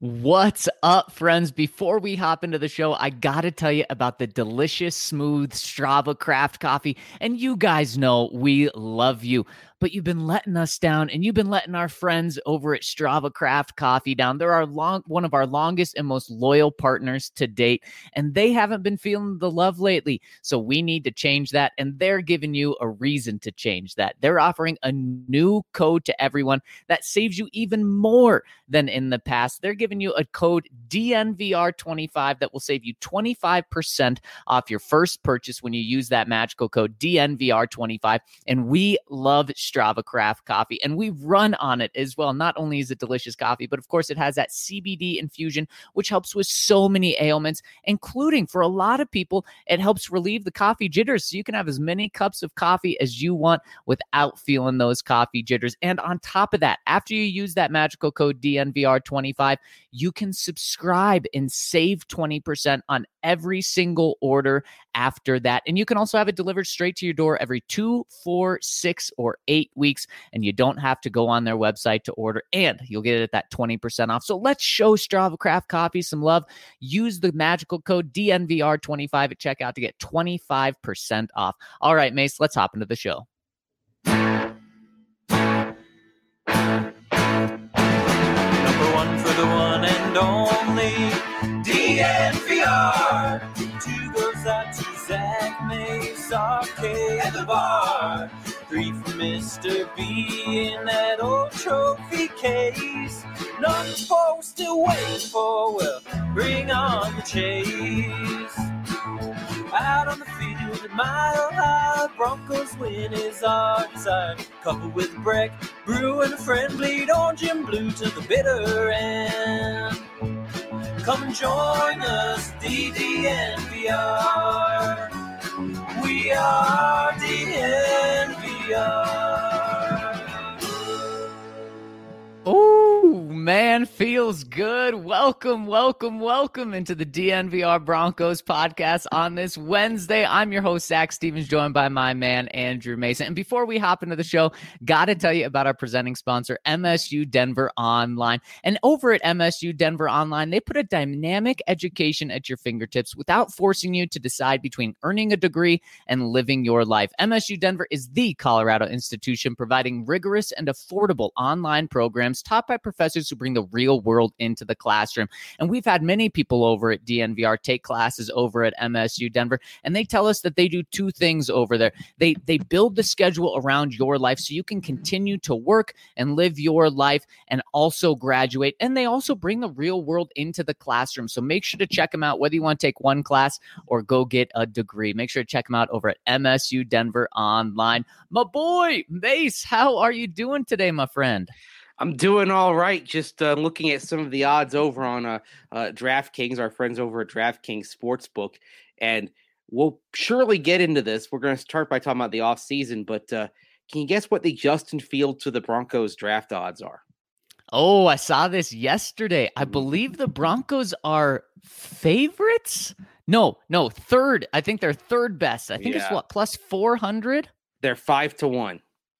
What's up, friends? Before we hop into the show, I gotta tell you about the delicious, smooth Strava Craft coffee. And you guys know we love you, but you've been letting us down, and you've been letting our friends over at Strava Craft Coffee down. They're one of our longest and most loyal partners to date, and they haven't been feeling the love lately. So we need to change that, and they're giving you a reason to change that. They're offering a new code to everyone that saves you even more than in the past. They're giving you a code DNVR25 that will save you 25% off your first purchase when you use that magical code DNVR25. And we love Strava Craft coffee, and we run on it as well. Not only is it delicious coffee, but of course it has that CBD infusion, which helps with so many ailments, including for a lot of people, it helps relieve the coffee jitters. So you can have as many cups of coffee as you want without feeling those coffee jitters. And on top of that, after you use that magical code DNVR25, you can subscribe and save 20% on every single order after that. And you can also have it delivered straight to your door every 2, 4, 6, or 8 weeks. And you don't have to go on their website to order, and you'll get it at that 20% off. So let's show Strava Craft Coffee some love. Use the magical code DNVR25 at checkout to get 25% off. All right, Mace, let's hop into the show. The one and only DNVR. 2 goes out to Zach, Mace, RK, and the bar. 3 for Mr. B in that old trophy case. None for still waiting for, well, bring on the chase. Out on the field, a mile high, Broncos win is our desire. Coupled with Breck, Brew, and a friend, bleed orange and blue to the bitter end. Come and join us, DNVR. We are DNVR. Oh, man, feels good. Welcome into the DNVR Broncos podcast on this Wednesday. I'm your host, Zach Stevens, joined by my man, Andrew Mason. And before we hop into the show, got to tell you about our presenting sponsor, MSU Denver Online. And over at MSU Denver Online, they put a dynamic education at your fingertips without forcing you to decide between earning a degree and living your life. MSU Denver is the Colorado institution providing rigorous and affordable online programs taught by professors who bring the real world into the classroom. And we've had many people over at DNVR take classes over at MSU Denver, and they tell us that they do 2 things over there. They build the schedule around your life so you can continue to work and live your life and also graduate. And they also bring the real world into the classroom. So make sure to check them out, whether you want to take one class or go get a degree. Make sure to check them out over at MSU Denver Online. My boy, Mace, how are you doing today, my friend? I'm doing all right. Just looking at some of the odds over on DraftKings, our friends over at DraftKings Sportsbook. And we'll surely get into this. We're going to start by talking about the offseason. But can you guess what the Justin Fields to the Broncos draft odds are? Oh, I saw this yesterday. I believe the Broncos are favorites. No, third. I think they're third best. I think it's what, plus 400? They're 5-1.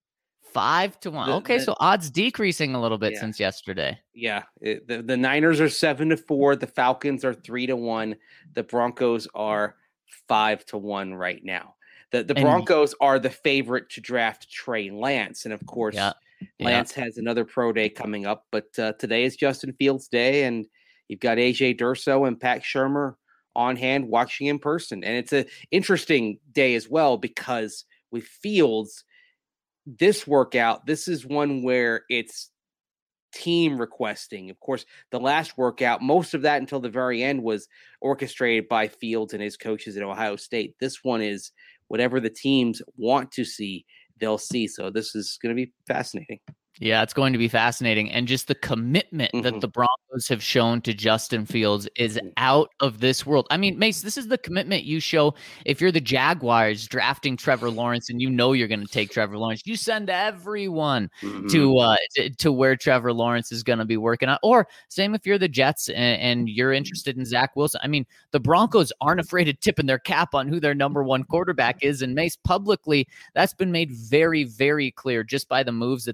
5-1. Okay, so odds decreasing a little bit since yesterday. Yeah, the Niners are 7-4. The Falcons are 3-1. The Broncos are 5-1 right now. The Broncos are the favorite to draft Trey Lance, and of course, Lance has another pro day coming up. But today is Justin Fields' day, and you've got AJ Durso and Pat Shurmur on hand watching in person, and it's an interesting day as well because with Fields. This workout, this is one where it's team requesting. Of course, the last workout, most of that until the very end was orchestrated by Fields and his coaches at Ohio State. This one is whatever the teams want to see, they'll see. So this is going to be fascinating. Yeah, it's going to be fascinating. And just the commitment that the Broncos have shown to Justin Fields is out of this world. I mean, Mace, this is the commitment you show if you're the Jaguars drafting Trevor Lawrence and you know you're going to take Trevor Lawrence. You send everyone to where Trevor Lawrence is going to be working out. Or same if you're the Jets and you're interested in Zach Wilson. I mean, the Broncos aren't afraid of tipping their cap on who their number one quarterback is. And Mace, publicly, that's been made very, very clear just by the moves that they've made.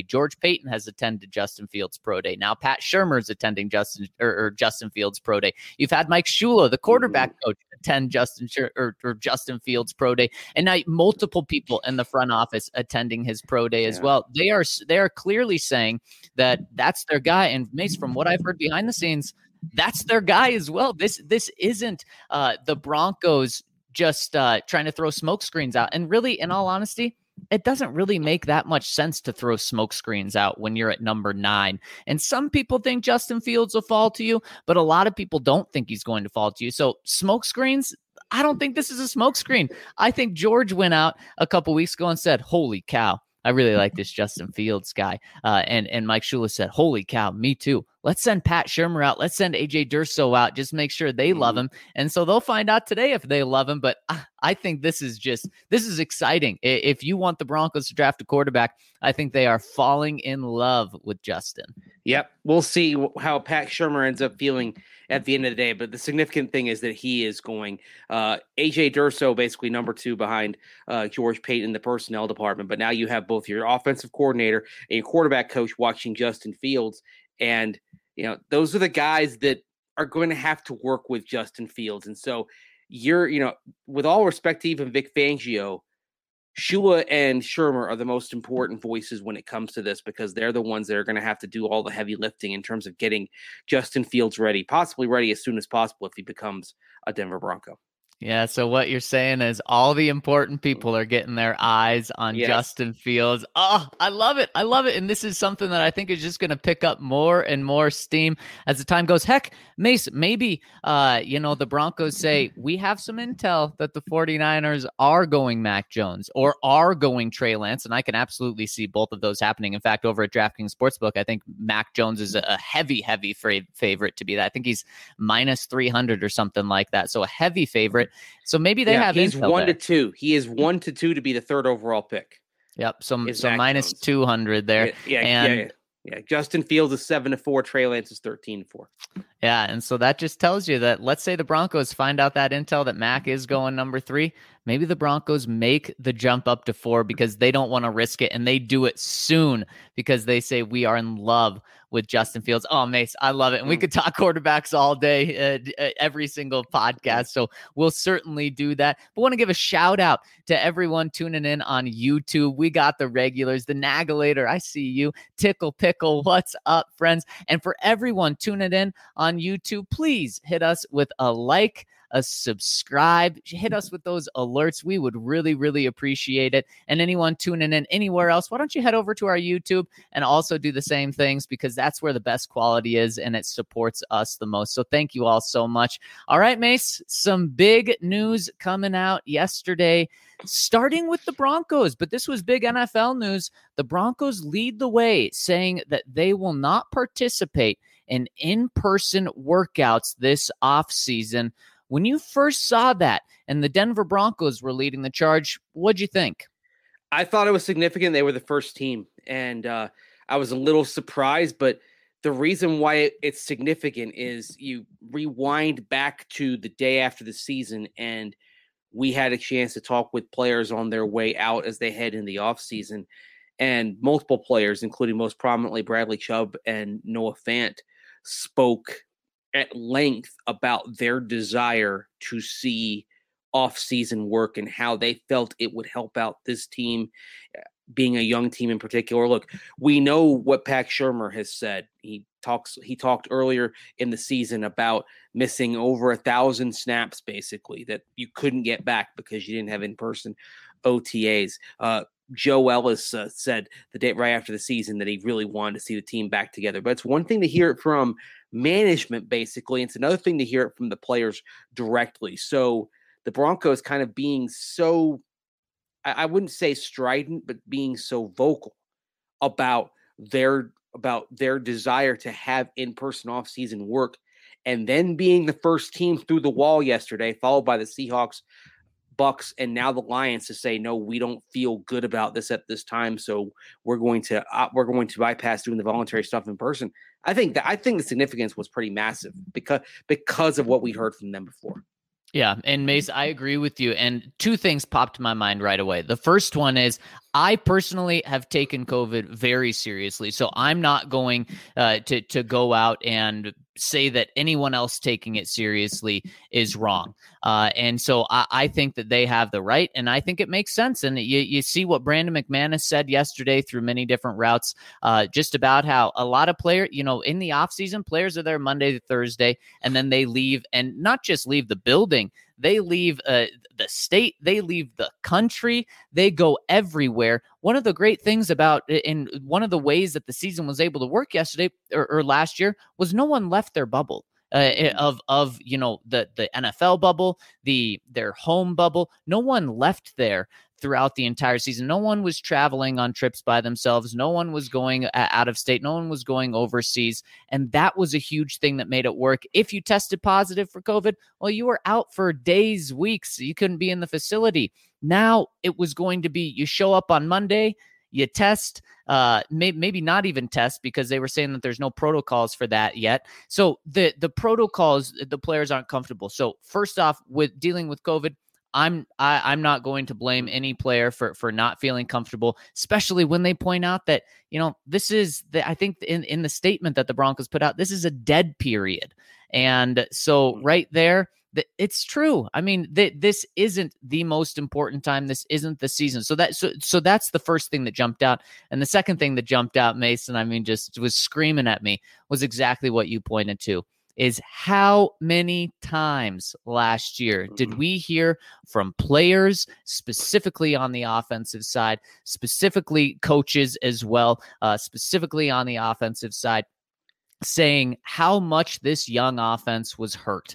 George Payton has attended Justin Fields' pro day. Now Pat Shurmur is attending Justin Fields' pro day. You've had Mike Shula, the quarterback coach, attend Justin Fields' pro day, and now multiple people in the front office attending his pro day as well. They are clearly saying that that's their guy. And Mace, from what I've heard behind the scenes, that's their guy as well. This isn't the Broncos just trying to throw smoke screens out. And really, in all honesty, it doesn't really make that much sense to throw smoke screens out when you're at number 9. And some people think Justin Fields will fall to you, but a lot of people don't think he's going to fall to you. So smoke screens, I don't think this is a smoke screen. I think George went out a couple weeks ago and said, holy cow, I really like this Justin Fields guy. And Mike Shula said, holy cow, me too. Let's send Pat Shurmur out. Let's send AJ Durso out. Just make sure they love him. And so they'll find out today if they love him. But I think this is exciting. If you want the Broncos to draft a quarterback, I think they are falling in love with Justin. Yep. We'll see how Pat Shurmur ends up feeling at the end of the day. But the significant thing is that he is going AJ Durso, basically number 2 behind George Payton in the personnel department. But now you have both your offensive coordinator and your quarterback coach watching Justin Fields. And, those are the guys that are going to have to work with Justin Fields. And so with all respect to even Vic Fangio, Shula and Shurmur are the most important voices when it comes to this, because they're the ones that are going to have to do all the heavy lifting in terms of getting Justin Fields ready, possibly ready as soon as possible if he becomes a Denver Bronco. Yeah, so what you're saying is all the important people are getting their eyes on Justin Fields. Oh, I love it. I love it. And this is something that I think is just going to pick up more and more steam as the time goes. Heck, Mace, maybe, the Broncos say, we have some intel that the 49ers are going Mac Jones or are going Trey Lance. And I can absolutely see both of those happening. In fact, over at DraftKings Sportsbook, I think Mac Jones is a heavy favorite to be that. I think he's minus 300 or something like that. So a heavy favorite. So maybe they have. He's 1-2. He is 1-2 to be the 3rd overall pick. Yep. So minus 200 there. Yeah. Justin Fields is 7-4. Trey Lance is 13-4. Yeah, and so that just tells you that, let's say the Broncos find out that intel that Mac is going number 3. Maybe the Broncos make the jump up to 4 because they don't want to risk it, and they do it soon because they say we are in love with Justin Fields. Oh, Mace, I love it. And we could talk quarterbacks all day, every single podcast. So we'll certainly do that. But want to give a shout out to everyone tuning in on YouTube. We got the regulars, the Nagulator. I see you. Tickle Pickle. What's up, friends? And for everyone tuning in on YouTube, please hit us with a like, a subscribe, hit us with those alerts. We would really, really appreciate it. And anyone tuning in anywhere else, why don't you head over to our YouTube and also do the same things, because that's where the best quality is and it supports us the most. So thank you all so much. All right, Mace, some big news coming out yesterday, starting with the Broncos, but this was big NFL news. The Broncos lead the way, saying that they will not participate in in-person workouts this offseason. When you first saw that and the Denver Broncos were leading the charge, what'd you think? I thought it was significant. They were the first team, and I was a little surprised, but the reason why it's significant is you rewind back to the day after the season, and we had a chance to talk with players on their way out as they head in the offseason, and multiple players, including most prominently Bradley Chubb and Noah Fant, spoke at length about their desire to see off-season work and how they felt it would help out this team, being a young team in particular. Look, we know what Pat Shurmur has said. He talked earlier in the season about missing over 1,000 snaps, basically, that you couldn't get back because you didn't have in-person OTAs. Joe Ellis said the day right after the season that he really wanted to see the team back together. But it's one thing to hear it from management, basically. It's another thing to hear it from the players directly. So the Broncos kind of being so, I wouldn't say strident, but being so vocal about their desire to have in-person off-season work, and then being the first team through the wall yesterday, followed by the Seahawks, Bucks, and now the Lions, to say, no, we don't feel good about this at this time, so we're going to bypass doing the voluntary stuff in person. I think the significance was pretty massive because of what we heard from them before. Yeah, and Mace, I agree with you. And two things popped to my mind right away. The first one is I personally have taken COVID very seriously, so I'm not going to go out and say that anyone else taking it seriously is wrong. And so I think that they have the right, and I think it makes sense. And you see what Brandon McManus said yesterday through many different routes, just about how a lot of players, in the offseason, players are there Monday to Thursday, and then they leave, and not just leave the building, they leave the state, they leave the country, they go everywhere. One of the great things about, in one of the ways that the season was able to work yesterday or last year, was no one left their bubble. Of the NFL bubble, their home bubble. No one left there throughout the entire season. No one was traveling on trips by themselves. No one was going out of state. No one was going overseas. And that was a huge thing that made it work. If you tested positive for COVID, well, you were out for days, weeks. You couldn't be in the facility. Now it was going to be, you show up on Monday, you test, maybe not even test, because they were saying that there's no protocols for that yet. So the protocols, the players aren't comfortable. So first off, with dealing with COVID, I'm not going to blame any player for not feeling comfortable, especially when they point out that, this is I think in the statement that the Broncos put out, this is a dead period. And so right there, it's true. I mean, this isn't the most important time. This isn't the season. So that's the first thing that jumped out. And the second thing that jumped out, Mason, I mean, just was screaming at me, was exactly what you pointed to, is how many times last year did we hear from players, specifically on the offensive side, specifically coaches as well, specifically on the offensive side, saying how much this young offense was hurt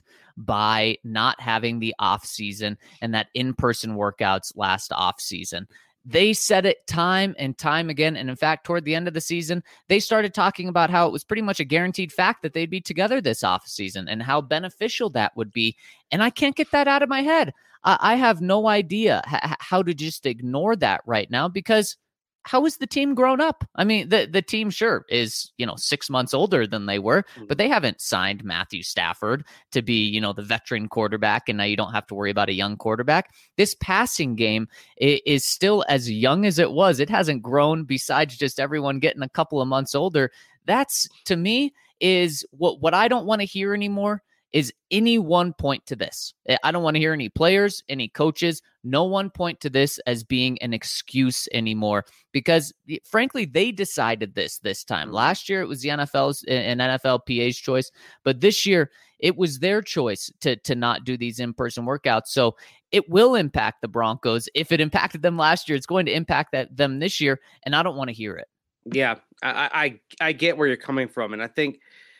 by not having the off season and that in-person workouts last off season. They said it time and time again. And in fact, toward the end of the season, they started talking about how it was pretty much a guaranteed fact that they'd be together this off season and how beneficial that would be. And I can't get that out of my head. I have no idea how to just ignore that right now, because how has the team grown up? I mean, the team sure is, 6 months older than they were, but they haven't signed Matthew Stafford to be, the veteran quarterback. And now you don't have to worry about a young quarterback. This passing game is still as young as it was. It hasn't grown besides just everyone getting a couple of months older. That's, to me, is what I don't want to hear anymore. Is any one point to this. I don't want to hear any players, any coaches, no one point to this as being an excuse anymore, because frankly, they decided this time. Last year, it was the NFL's and NFLPA's choice, but this year it was their choice to not do these in-person workouts. So it will impact the Broncos. If it impacted them last year, it's going to impact them this year, and I don't want to hear it. Yeah, I get where you're coming from, and I think,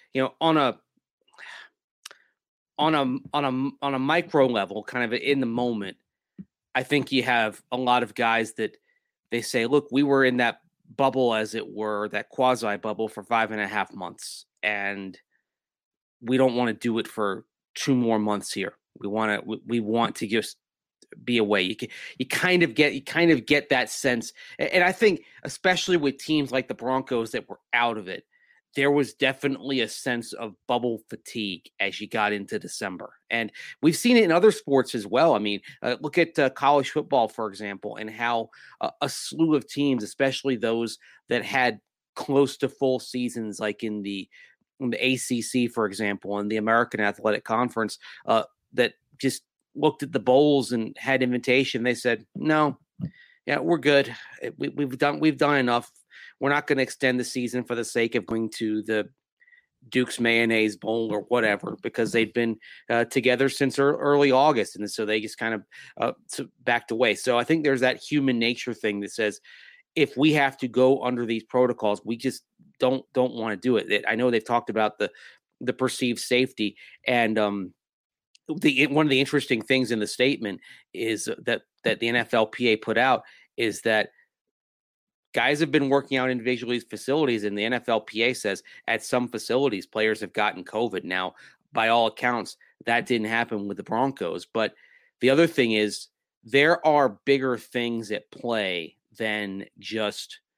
on a micro level, kind of in the moment, I think you have a lot of guys that they say, look, we were in that bubble, as it were, that quasi bubble for 5.5 months, and we don't want to do it for 2 more months here. We want to just be away. You kind of get that sense. And I think, especially with teams like the Broncos that were out of it, there was definitely a sense of bubble fatigue as you got into December. And we've seen it in other sports as well. I mean, look at college football, for example, and how a slew of teams, especially those that had close to full seasons, like in the ACC, for example, and the American Athletic Conference, that just looked at the bowls and had invitation. They said, no, yeah, we're good. We've done enough. We're not going to extend the season for the sake of going to the Duke's Mayonnaise Bowl or whatever, because they've been together since early August. And so they just kind of backed away. So I think there's that human nature thing that says, if we have to go under these protocols, we just don't want to do it. I know they've talked about the perceived safety, and one of the interesting things in the statement is that the NFLPA put out is that guys have been working out individually at facilities, and the NFLPA says at some facilities players have gotten COVID. Now, by all accounts, that didn't happen with the Broncos. But the other thing is, there are bigger things at play than just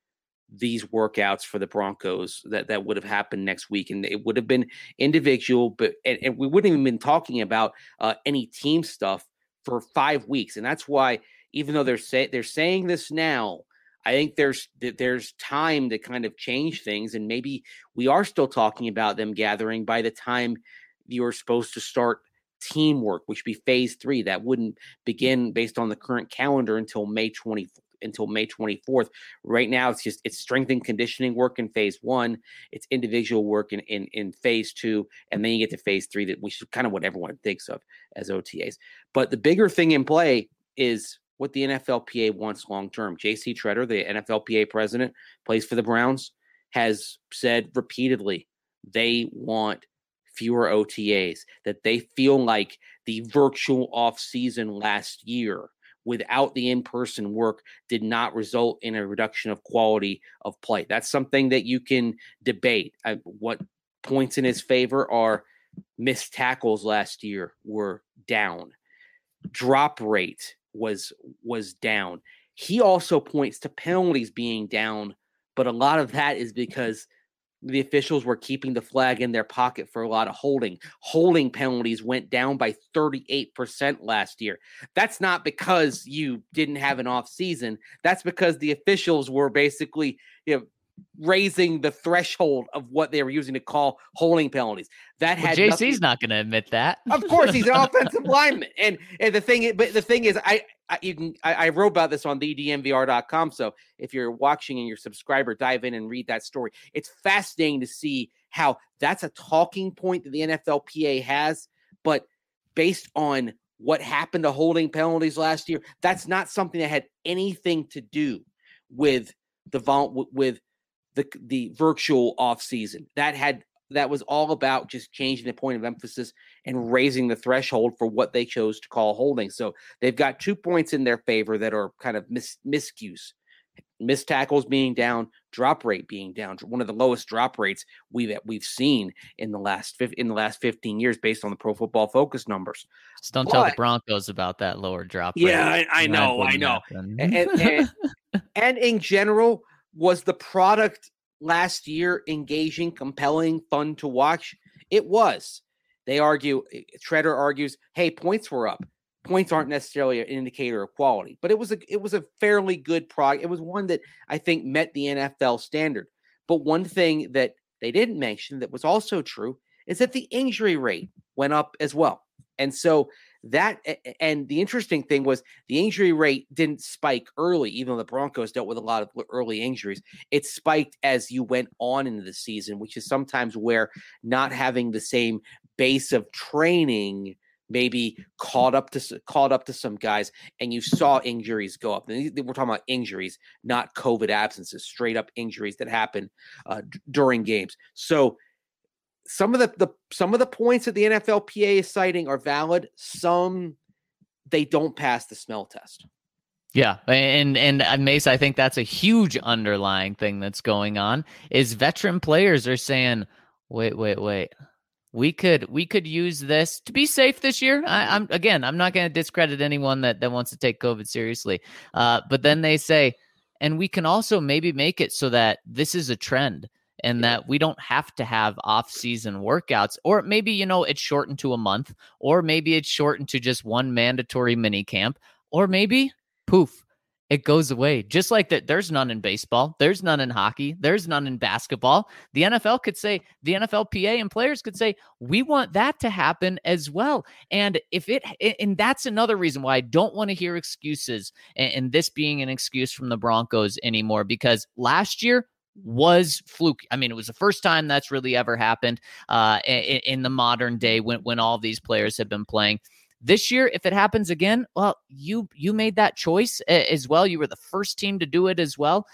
these workouts for the Broncos that would have happened next week. And it would have been individual, but and we wouldn't even been talking about any team stuff for 5 weeks. And that's why, even though they're saying this now, I think there's time to kind of change things. And maybe we are still talking about them gathering by the time you're supposed to start teamwork, which would be phase 3. That wouldn't begin based on the current calendar until May 24th. Right now, it's strength and conditioning work in phase 1. It's individual work in phase 2. And then you get to phase 3, which is kind of what everyone thinks of as OTAs. But the bigger thing in play is what the NFLPA wants long-term. J.C. Tretter, the NFLPA president, plays for the Browns, has said repeatedly they want fewer OTAs, that they feel like the virtual offseason last year without the in-person work did not result in a reduction of quality of play. That's something that you can debate. What points in his favor are missed tackles last year were down. Drop rate was down. He also points to penalties being down, but a lot of that is because the officials were keeping the flag in their pocket for a lot of holding. Holding penalties went down by 38% last year. That's not because you didn't have an off season. That's because the officials were basically, raising the threshold of what they were using to call holding penalties. That had JC's not going to admit that. Of course, he's an offensive lineman, and the thing is, I wrote about this on thedmvr.com. So if you're watching and you're a subscriber, dive in and read that story. It's fascinating to see how that's a talking point that the NFLPA has, but based on what happened to holding penalties last year, that's not something that had anything to do with the virtual off season. That was all about just changing the point of emphasis and raising the threshold for what they chose to call holding. So they've got 2 points in their favor that are kind of miscues. Missed tackles being down, drop rate being down, one of the lowest drop rates we've seen in the last 15 years based on the Pro Football Focus numbers. Just don't tell the Broncos about that lower drop rate. Yeah, I know. And in general, was the product last year engaging, compelling, fun to watch? It was. Tretter argues, hey, points were up. Points aren't necessarily an indicator of quality, but it was a fairly good product. It was one that I think met the NFL standard. But one thing that they didn't mention that was also true is that the injury rate went up as well. And so and the interesting thing was the injury rate didn't spike early, even though the Broncos dealt with a lot of early injuries. It spiked as you went on into the season, which is sometimes where not having the same base of training maybe caught up to some guys, and you saw injuries go up. And we're talking about injuries, not COVID absences, straight up injuries that happen during games. So some of the points that the NFLPA is citing are valid. Some they don't pass the smell test. Yeah, and Mace, I think that's a huge underlying thing that's going on. Is veteran players are saying, wait. We could use this to be safe this year. I'm not going to discredit anyone that wants to take COVID seriously. But then they say, and we can also maybe make it so that this is a trend and that we don't have to have off-season workouts, or maybe, it's shortened to a month, or maybe it's shortened to just one mandatory mini camp, or maybe poof, it goes away. Just like that, there's none in baseball, there's none in hockey, there's none in basketball. The NFL could say, the NFLPA and players could say, we want that to happen as well. And and that's another reason why I don't want to hear excuses, and this being an excuse from the Broncos anymore, because last year was fluky. I mean, it was the first time that's really ever happened in the modern day when all these players have been playing. This year, if it happens again, well, you made that choice as well. You were the first team to do it as well.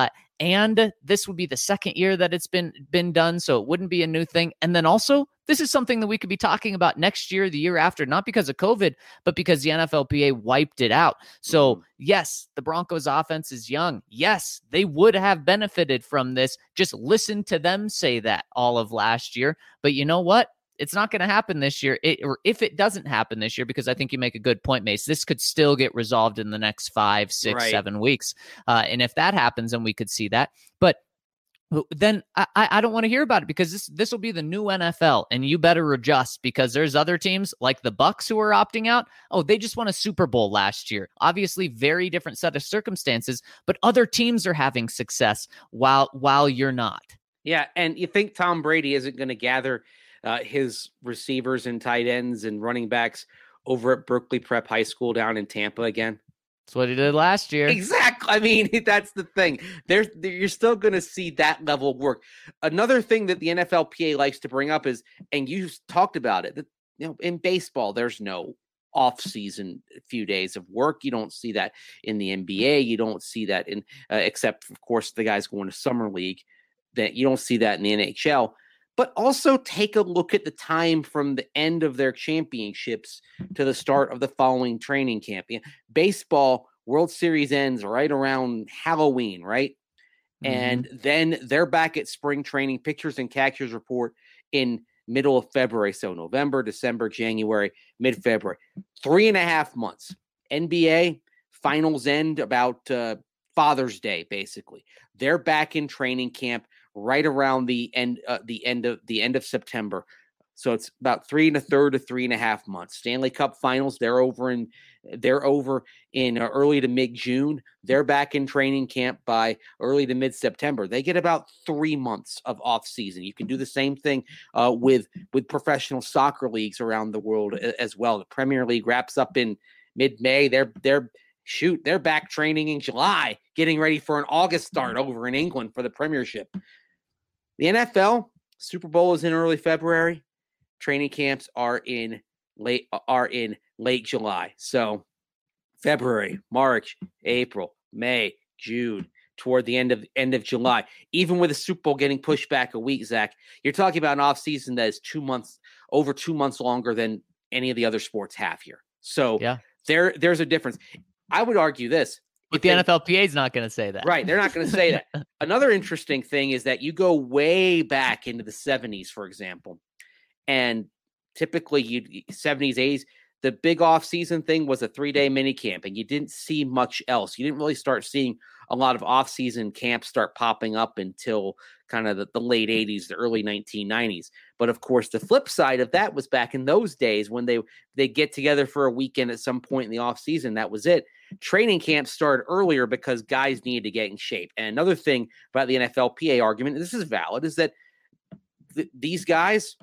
And this would be the second year that it's been done, so it wouldn't be a new thing. And then also, this is something that we could be talking about next year, the year after, not because of COVID, but because the NFLPA wiped it out. So yes, the Broncos offense is young. Yes, they would have benefited from this. Just listen to them say that all of last year. But you know what? It's not going to happen this year. Or if it doesn't happen this year, because I think you make a good point, Mace, this could still get resolved in the next 5, 6, 7 weeks. And if that happens, then we could see that. But then I don't want to hear about it, because this will be the new NFL, and you better adjust, because there's other teams like the Bucs who are opting out. Oh, they just won a Super Bowl last year. Obviously, very different set of circumstances, but other teams are having success while you're not. Yeah, and you think Tom Brady isn't going to gather his receivers and tight ends and running backs over at Berkeley Prep High School down in Tampa again? That's what he did last year. Exactly. I mean, that's the thing. You're still going to see that level of work. Another thing that the NFLPA likes to bring up is, and you talked about it, that, in baseball, there's no off-season few days of work. You don't see that in the NBA. You don't see that in, except of course the guys going to summer league. That you don't see that in the NHL. But also take a look at the time from the end of their championships to the start of the following training camp. Baseball, World Series ends right around Halloween, right? Mm-hmm. And then they're back at spring training. Pitchers and catchers report in middle of February. So November, December, January, mid-February. 3.5 months. NBA, finals end about Father's Day, basically. They're back in training camp right around the end of September. So it's about 3 1/3 to 3.5 months. Stanley Cup Finals, they're over in early to mid-June. They're back in training camp by early to mid-September. They get about 3 months of off season. You can do the same thing with professional soccer leagues around the world as well. The Premier League wraps up in mid-May. They're back training in July, getting ready for an August start over in England for the Premiership. The NFL, Super Bowl is in early February. Training camps are in late July. So February, March, April, May, June, toward the end of July. Even with the Super Bowl getting pushed back a week, Zach, you're talking about an offseason that is over 2 months longer than any of the other sports have here. So yeah, there's a difference. I would argue this. But the NFLPA is not going to say that. Right. They're not going to say that. Another interesting thing is that you go way back into the 70s, for example, and typically 70s, 80s, the big offseason thing was a 3-day mini camp, and you didn't see much else. You didn't really start seeing a lot of off-season camps start popping up until kind of the late 80s, the early 1990s. But of course, the flip side of that was back in those days when they get together for a weekend at some point in the off-season. That was it. Training camps started earlier because guys needed to get in shape. And another thing about the NFLPA argument, and this is valid, is that these guys,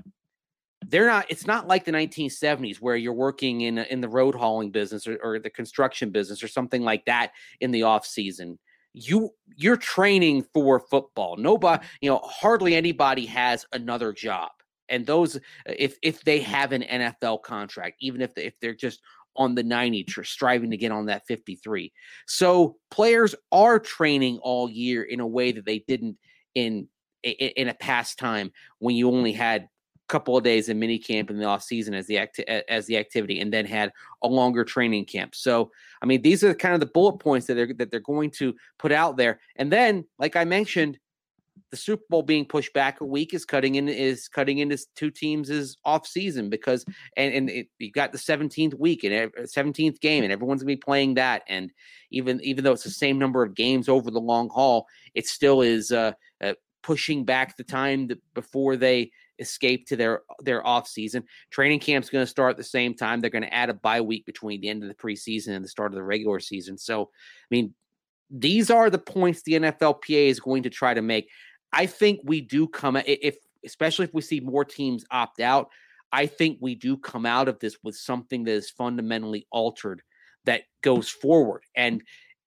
it's not like the 1970s where you're working in the road hauling business or the construction business or something like that in the off season. You're training for football. Nobody, hardly anybody has another job. And those, if they have an NFL contract, even if they're just on the 90, striving to get on that 53. So players are training all year in a way that they didn't in a past time when you only had couple of days in mini camp in the off season as the activity, and then had a longer training camp. So, I mean, these are kind of the bullet points that they're going to put out there. And then, like I mentioned, the Super Bowl being pushed back a week is cutting into two teams' off season because, you got the 17th week and 17th game, and everyone's gonna be playing that. And even though it's the same number of games over the long haul, it still is pushing back the time before they escape to their off season. Training camp's going to start at the same time. They're going to add a bye week between the end of the preseason and the start of the regular season. So, I mean, these are the points the NFLPA is going to try to make. I think we do especially if we see more teams opt out, I think we do come out of this with something that is fundamentally altered that goes forward. And,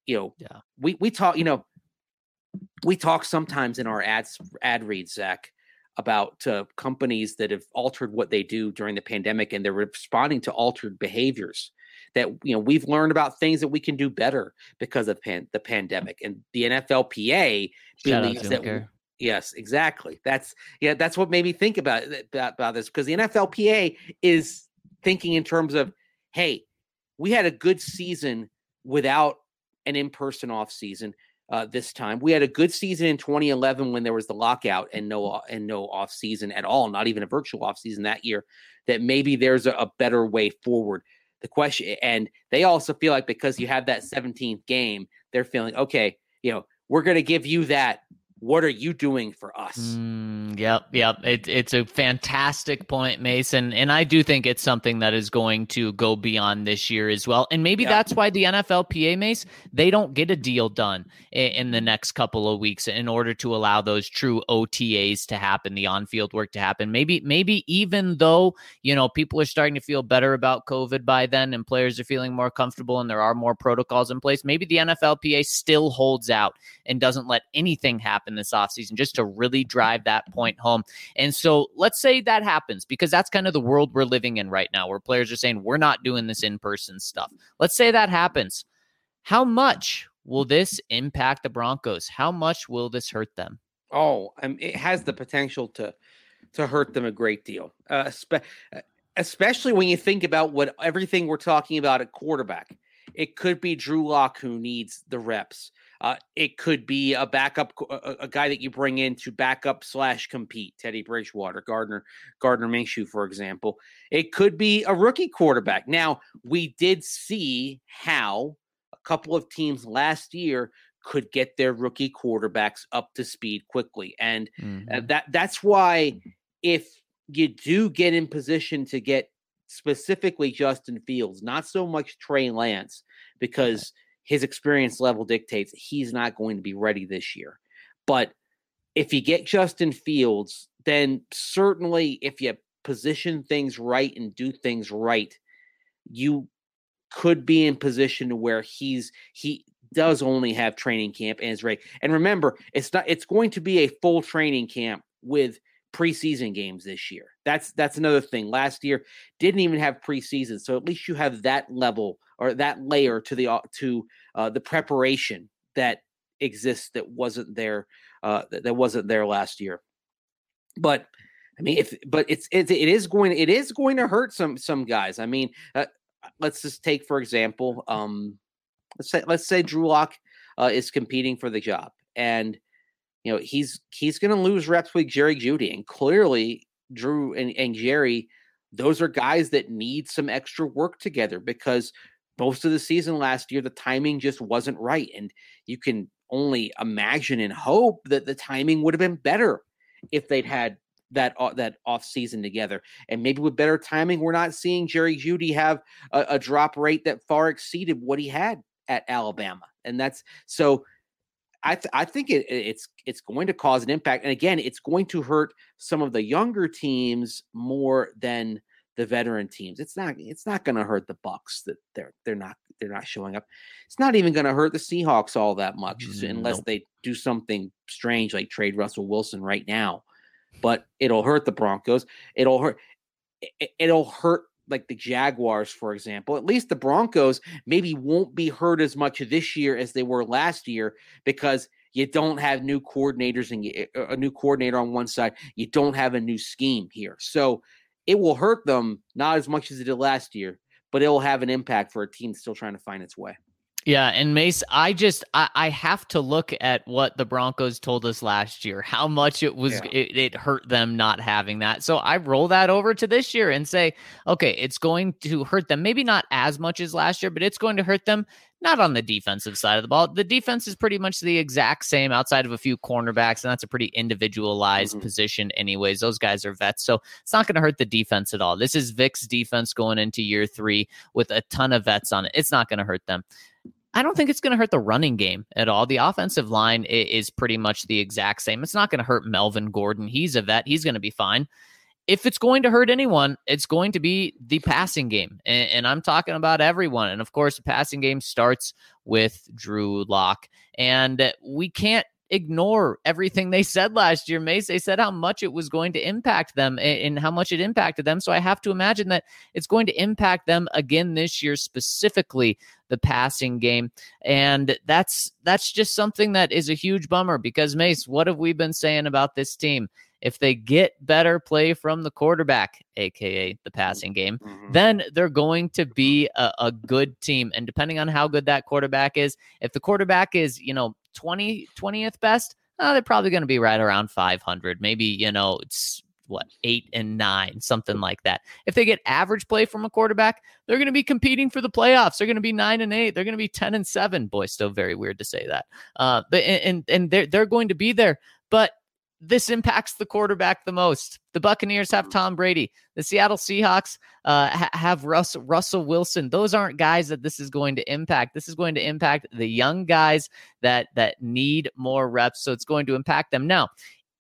we talk sometimes in our ad reads, Zach, about companies that have altered what they do during the pandemic, and they're responding to altered behaviors that, we've learned about things that we can do better because of the pandemic. And the NFLPA believes that. Yes, exactly. That's what made me think about this, because the NFLPA is thinking in terms of, hey, we had a good season without an in-person off season. this time. We had a good season in 2011 when there was the lockout and no off season at all, not even a virtual off season that year. That maybe there's a better way forward. The question, and they also feel like because you have that 17th game, they're feeling okay. We're going to give you that. What are you doing for us? Yep. It's a fantastic point, Mason. And I do think it's something that is going to go beyond this year as well. And maybe that's why the NFLPA, Mace, they don't get a deal done in the next couple of weeks in order to allow those true OTAs to happen, the on-field work to happen. Maybe even though, people are starting to feel better about COVID by then and players are feeling more comfortable and there are more protocols in place, maybe the NFLPA still holds out and doesn't let anything happen this offseason just to really drive that point home. And so let's say that happens, because that's kind of the world we're living in right now, where players are saying we're not doing this in-person stuff. Let's say that happens. How much will this impact the Broncos? How much will this hurt them? It has the potential to hurt them a great deal, especially when you think about everything we're talking about at quarterback. It could be Drew Lock who needs the reps. It could be a backup, a guy that you bring in to backup / compete. Teddy Bridgewater, Gardner Minshew, for example. It could be a rookie quarterback. Now, we did see how a couple of teams last year could get their rookie quarterbacks up to speed quickly. And that's why if you do get in position to get specifically Justin Fields, not so much Trey Lance, because his experience level dictates he's not going to be ready this year. But if you get Justin Fields, then certainly if you position things right and do things right, you could be in position to where he does only have training camp and is ready. And remember, it's going to be a full training camp with preseason games this year. That's another thing. Last year didn't even have preseason, so at least you have that level or that layer to the preparation that exists that wasn't there last year. But I mean, it is going to hurt some guys. I mean, let's just take for example, let's say Drew Lock is competing for the job, and he's going to lose reps with Jerry Jeudy, and clearly Drew and Jerry, those are guys that need some extra work together, because most of the season last year, the timing just wasn't right. And you can only imagine and hope that the timing would have been better if they'd had that off season together. And maybe with better timing, we're not seeing Jerry Jeudy have a drop rate that far exceeded what he had at Alabama. And that's so I think it's going to cause an impact. And again, it's going to hurt some of the younger teams more than the veteran teams. It's not going to hurt the Bucs that they're not showing up. It's not even going to hurt the Seahawks all that much unless they do something strange like trade Russell Wilson right now. But it'll hurt the Broncos. It'll hurt like the Jaguars, for example. At least the Broncos maybe won't be hurt as much this year as they were last year, because you don't have new coordinators and a new coordinator on one side. You don't have a new scheme here. So it will hurt them not as much as it did last year, but it will have an impact for a team still trying to find its way. Yeah, and Mace, I have to look at what the Broncos told us last year, how much it hurt them not having that. So I roll that over to this year and say, okay, it's going to hurt them. Maybe not as much as last year, but it's going to hurt them not on the defensive side of the ball. The defense is pretty much the exact same outside of a few cornerbacks, and that's a pretty individualized position anyways. Those guys are vets, so it's not going to hurt the defense at all. This is Vic's defense going into year 3 with a ton of vets on it. It's not going to hurt them. I don't think it's going to hurt the running game at all. The offensive line is pretty much the exact same. It's not going to hurt Melvin Gordon. He's a vet. He's going to be fine. If it's going to hurt anyone, it's going to be the passing game. And I'm talking about everyone. And of course, the passing game starts with Drew Lock. And we can't ignore everything they said last year, Mace. They said how much it was going to impact them and how much it impacted them. So I have to imagine that it's going to impact them again this year, specifically the passing game. And that's just something that is a huge bummer, because Mace, what have we been saying about this team? If they get better play from the quarterback, aka the passing game, then they're going to be a good team. And depending on how good that quarterback is, if the quarterback is, 20th best, they're probably going to be right around 500. Maybe, it's 8 and 9, something like that. If they get average play from a quarterback, they're going to be competing for the playoffs. They're going to be 9 and 8. They're going to be 10 and 7. Boy, still very weird to say that. But they're going to be there. But this impacts the quarterback the most. The Buccaneers have Tom Brady. The Seattle Seahawks have Russell Wilson. Those aren't guys that this is going to impact. This is going to impact the young guys that need more reps. So it's going to impact them. Now,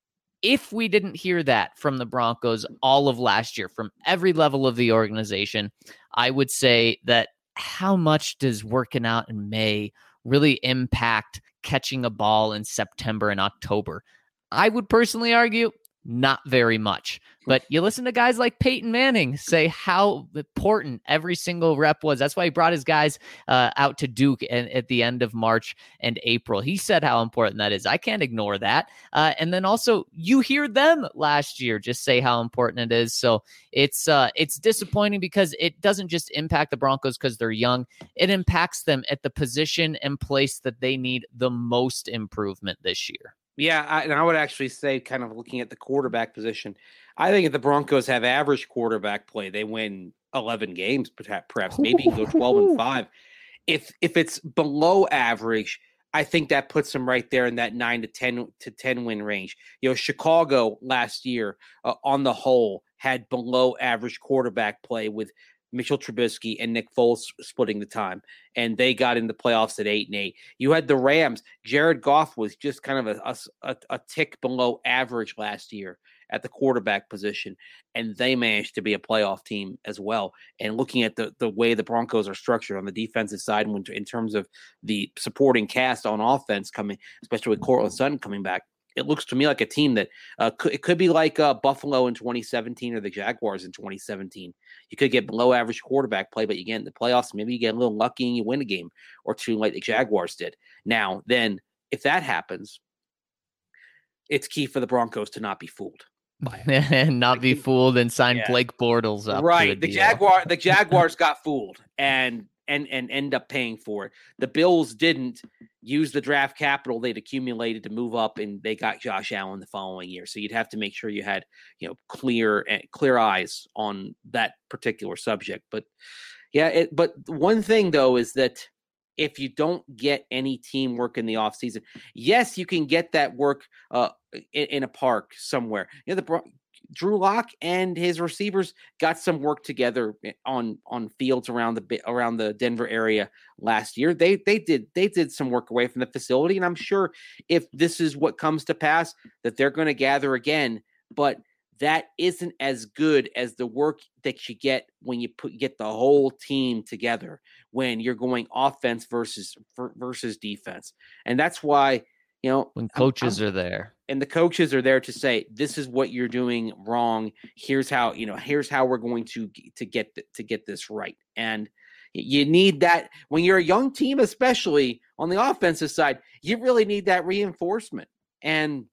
if we didn't hear that from the Broncos all of last year, from every level of the organization, I would say that how much does working out in May really impact catching a ball in September and October? I would personally argue not very much. But you listen to guys like Peyton Manning say how important every single rep was. That's why he brought his guys out to Duke at the end of March and April. He said how important that is. I can't ignore that. And then also you hear them last year just say how important it is. So it's disappointing because it doesn't just impact the Broncos because they're young. It impacts them at the position and place that they need the most improvement this year. Yeah, I would actually say, kind of looking at the quarterback position, I think if the Broncos have average quarterback play, they win 11 games, perhaps maybe go 12-5. If it's below average, I think that puts them right there in that 9 to 10 win range. Chicago last year, on the whole, had below average quarterback play with Mitchell Trubisky and Nick Foles splitting the time, and they got in the playoffs at 8-8. You had the Rams. Jared Goff was just kind of a tick below average last year at the quarterback position, and they managed to be a playoff team as well. And looking at the way the Broncos are structured on the defensive side, in terms of the supporting cast on offense coming, especially with Courtland Sutton coming back, it looks to me like a team that it could be like Buffalo in 2017 or the Jaguars in 2017. You could get below average quarterback play, but you get in the playoffs, maybe you get a little lucky and you win a game or two like the Jaguars did. Now, then, if that happens, it's key for the Broncos to not be fooled by it. And not be fooled and sign Blake Bortles up. Right. The Jaguars got fooled and end up paying for it. The Bills didn't use the draft capital they'd accumulated to move up, and they got Josh Allen the following year. So you'd have to make sure you had, clear eyes on that particular subject. But but one thing though is that if you don't get any teamwork in the offseason, yes, you can get that work in a park somewhere. Drew Lock and his receivers got some work together on fields around the Denver area last year. They did some work away from the facility, and I'm sure if this is what comes to pass, that they're going to gather again. But that isn't as good as the work that you get when you get the whole team together, when you're going offense versus defense, and that's why. When coaches are there. And the coaches are there to say, this is what you're doing wrong. Here's how we're going to get this right. And you need that when you're a young team, especially on the offensive side, you really need that reinforcement. And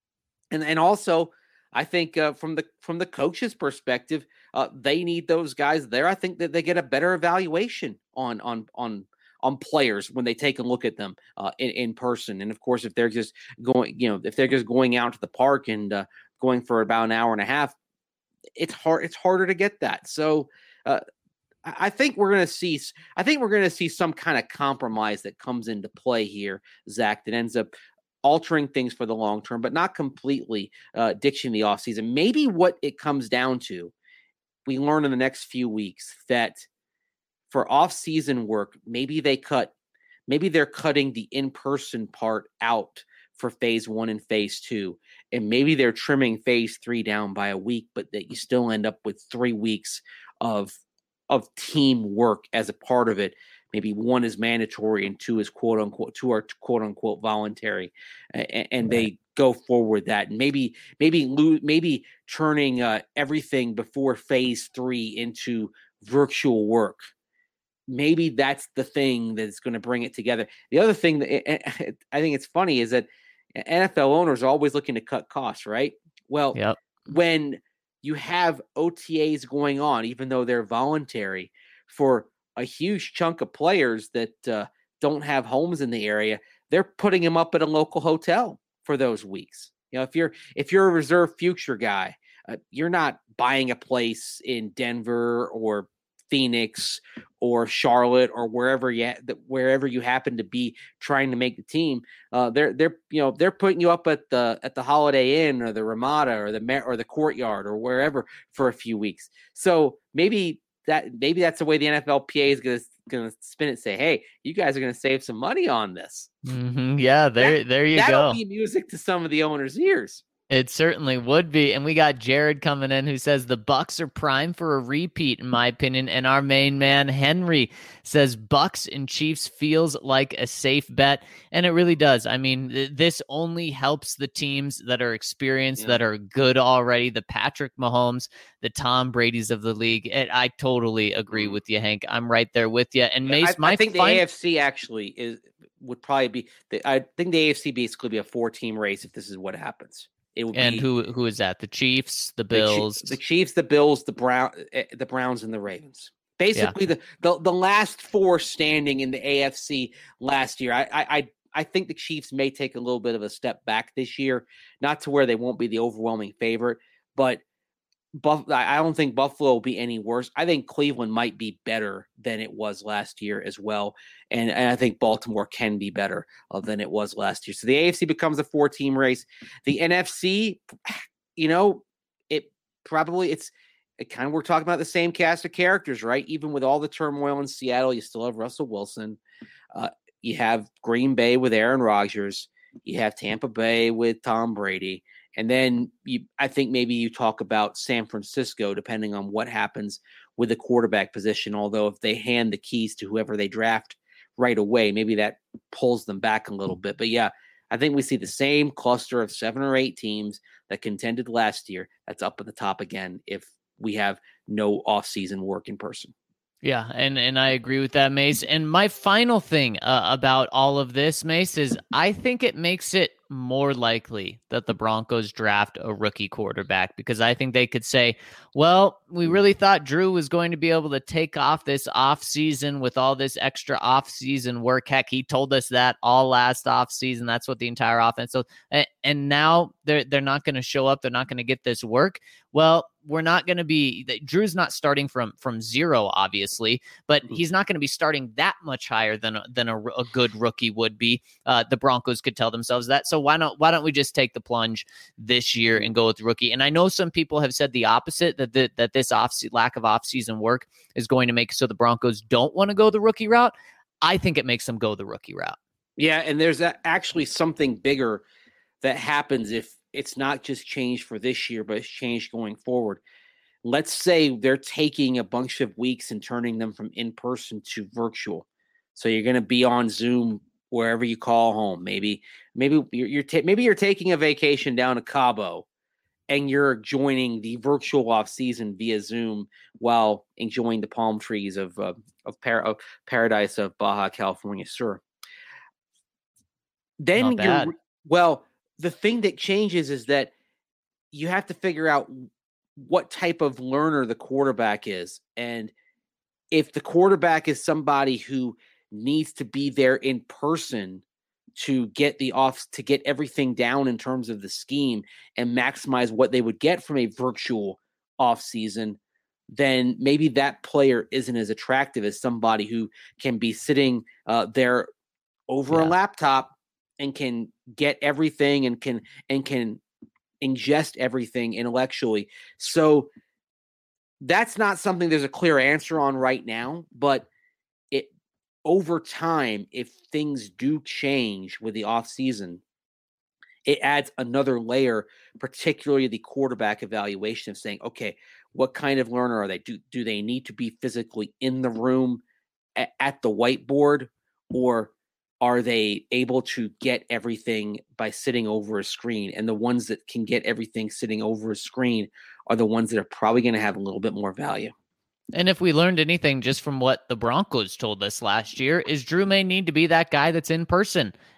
also, I think from the coach's perspective, they need those guys there. I think that they get a better evaluation on players when they take a look at them in person. And of course, if they're just going out to the park and going for about an hour and a half, it's harder to get that. So I think we're going to see some kind of compromise that comes into play here, Zach, that ends up altering things for the long term, but not completely ditching the offseason. Maybe what it comes down to, we learn in the next few weeks that for off-season work, maybe they're cutting the in-person part out for phase 1 and phase 2. And maybe they're trimming phase 3 down by a week, but that you still end up with 3 weeks of team work as a part of it. Maybe 1 is mandatory and 2 is quote unquote voluntary. And they go forward that. And maybe turning everything before phase 3 into virtual work. Maybe that's the thing that's going to bring it together. The other thing that I think it's funny is that NFL owners are always looking to cut costs, right? Well, Yep. when you have OTAs going on, even though they're voluntary, for a huge chunk of players that don't have homes in the area, they're putting them up at a local hotel for those weeks. If you're a reserve future guy, you're not buying a place in Denver or Phoenix or Charlotte or wherever you happen to be trying to make the team. They're putting you up at the Holiday Inn or the Ramada or the Courtyard or wherever for a few weeks. So maybe that's the way the NFLPA is going to spin it. Say, hey, you guys are going to save some money on this. Mm-hmm. Yeah, there you go. That'll be music to some of the owners' ears. It certainly would be. And we got Jared coming in who says the Bucks are prime for a repeat, in my opinion. And our main man, Henry, says Bucks and Chiefs feels like a safe bet. And it really does. I mean, this only helps the teams that are experienced, that are good already. The Patrick Mahomes, the Tom Brady's of the league. I totally agree with you, Hank. I'm right there with you. And Mace, I think the AFC actually would probably be. I think the AFC basically be a 4-team race if this is what happens. It would and be, who is that? The Chiefs, the Bills, the Chiefs, the Bills, the Browns, and the Ravens. Basically, the last four standing in the AFC last year. I think the Chiefs may take a little bit of a step back this year, not to where they won't be the overwhelming favorite, but I don't think Buffalo will be any worse. I think Cleveland might be better than it was last year as well. And I think Baltimore can be better than it was last year. So the AFC becomes a 4-team race. The NFC, we're talking about the same cast of characters, right? Even with all the turmoil in Seattle, you still have Russell Wilson. You have Green Bay with Aaron Rodgers. You have Tampa Bay with Tom Brady. And then I think maybe you talk about San Francisco, depending on what happens with the quarterback position. Although if they hand the keys to whoever they draft right away, maybe that pulls them back a little bit. But yeah, I think we see the same cluster of 7 or 8 teams that contended last year. That's up at the top again if we have no offseason work in person. Yeah, and I agree with that, Mace. And my final thing about all of this, Mace, is I think it makes it more likely that the Broncos draft a rookie quarterback, because I think they could say, well, we really thought Drew was going to be able to take off this offseason with all this extra offseason work. Heck, he told us that all last offseason. That's what the entire offense. So, and now they're not going to show up. They're not going to get this work. Well, we're not going to be – Drew's not starting from zero, obviously, but he's not going to be starting that much higher than a good rookie would be. The Broncos could tell themselves that. So why don't we just take the plunge this year and go with rookie? And I know some people have said the opposite, that this lack of offseason work is going to make so the Broncos don't want to go the rookie route. I think it makes them go the rookie route. Yeah, and there's actually something bigger that happens if it's not just changed for this year, but it's changed going forward. Let's say they're taking a bunch of weeks and turning them from in-person to virtual. So you're going to be on Zoom wherever you call home. Maybe you're taking a vacation down to Cabo and you're joining the virtual off season via Zoom while enjoying the palm trees of paradise of Baja California Sur. Then the thing that changes is that you have to figure out what type of learner the quarterback is. And if the quarterback is somebody who needs to be there in person to get to get everything down in terms of the scheme and maximize what they would get from a virtual off season, then maybe that player isn't as attractive as somebody who can be sitting there over a laptop and can get everything and can ingest everything intellectually. So that's not something there's a clear answer on right now, but over time, if things do change with the offseason, it adds another layer, particularly the quarterback evaluation of saying, okay, what kind of learner are they? Do they need to be physically in the room at the whiteboard, or are they able to get everything by sitting over a screen? And the ones that can get everything sitting over a screen are the ones that are probably going to have a little bit more value. And if we learned anything just from what the Broncos told us last year, is Drew may need to be that guy that's in person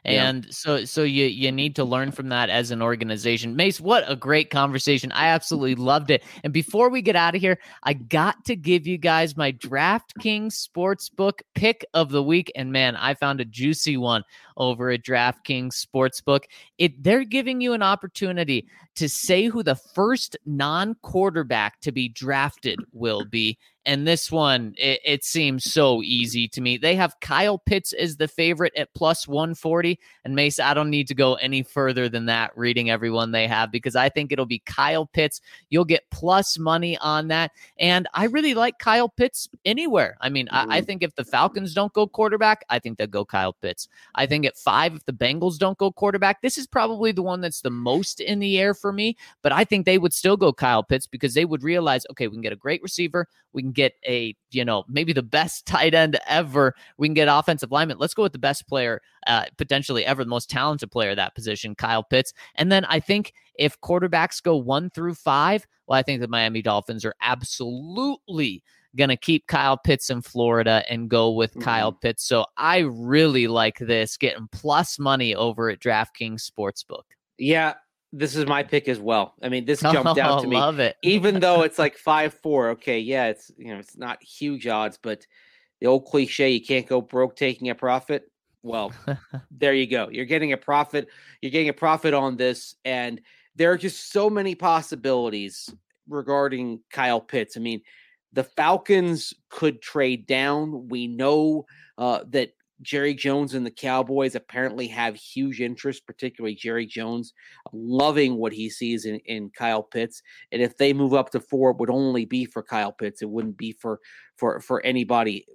And so you need to learn from that as an organization. Mace, what a great conversation. I absolutely loved it. And before we get out of here, I got to give you guys my DraftKings Sportsbook pick of the week. And man, I found a juicy one over at DraftKings Sportsbook. They're giving you an opportunity to say who the first non-quarterback to be drafted will be. And this one, it seems so easy to me. They have Kyle Pitts as the favorite at plus 140. And Mace, I don't need to go any further than that reading everyone they have, because I think it'll be Kyle Pitts. You'll get plus money on that. And I really like Kyle Pitts anywhere. I mean, I think if the Falcons don't go quarterback, I think they'll go Kyle Pitts. I think at 5, if the Bengals don't go quarterback, this is probably the one that's the most in the air for me. But I think they would still go Kyle Pitts, because they would realize, okay, we can get a great receiver. We can get maybe the best tight end ever. We can get offensive lineman. Let's go with the best player, potentially ever, the most talented player at that position, Kyle Pitts. And then I think if quarterbacks go 1 through 5, well, I think the Miami Dolphins are absolutely going to keep Kyle Pitts in Florida and go with Kyle Pitts. So I really like this, getting plus money over at DraftKings Sportsbook. Yeah. This is my pick as well. I mean, this jumped out to me. Love it. Even though it's like 5-4. Okay, yeah, it's not huge odds, but the old cliche, you can't go broke taking a profit. Well, there you go. You're getting a profit. You're getting a profit on this, and there are just so many possibilities regarding Kyle Pitts. I mean, the Falcons could trade down. We know that Jerry Jones and the Cowboys apparently have huge interest, particularly Jerry Jones, loving what he sees in Kyle Pitts. And if they move up to 4, it would only be for Kyle Pitts. It wouldn't be for anybody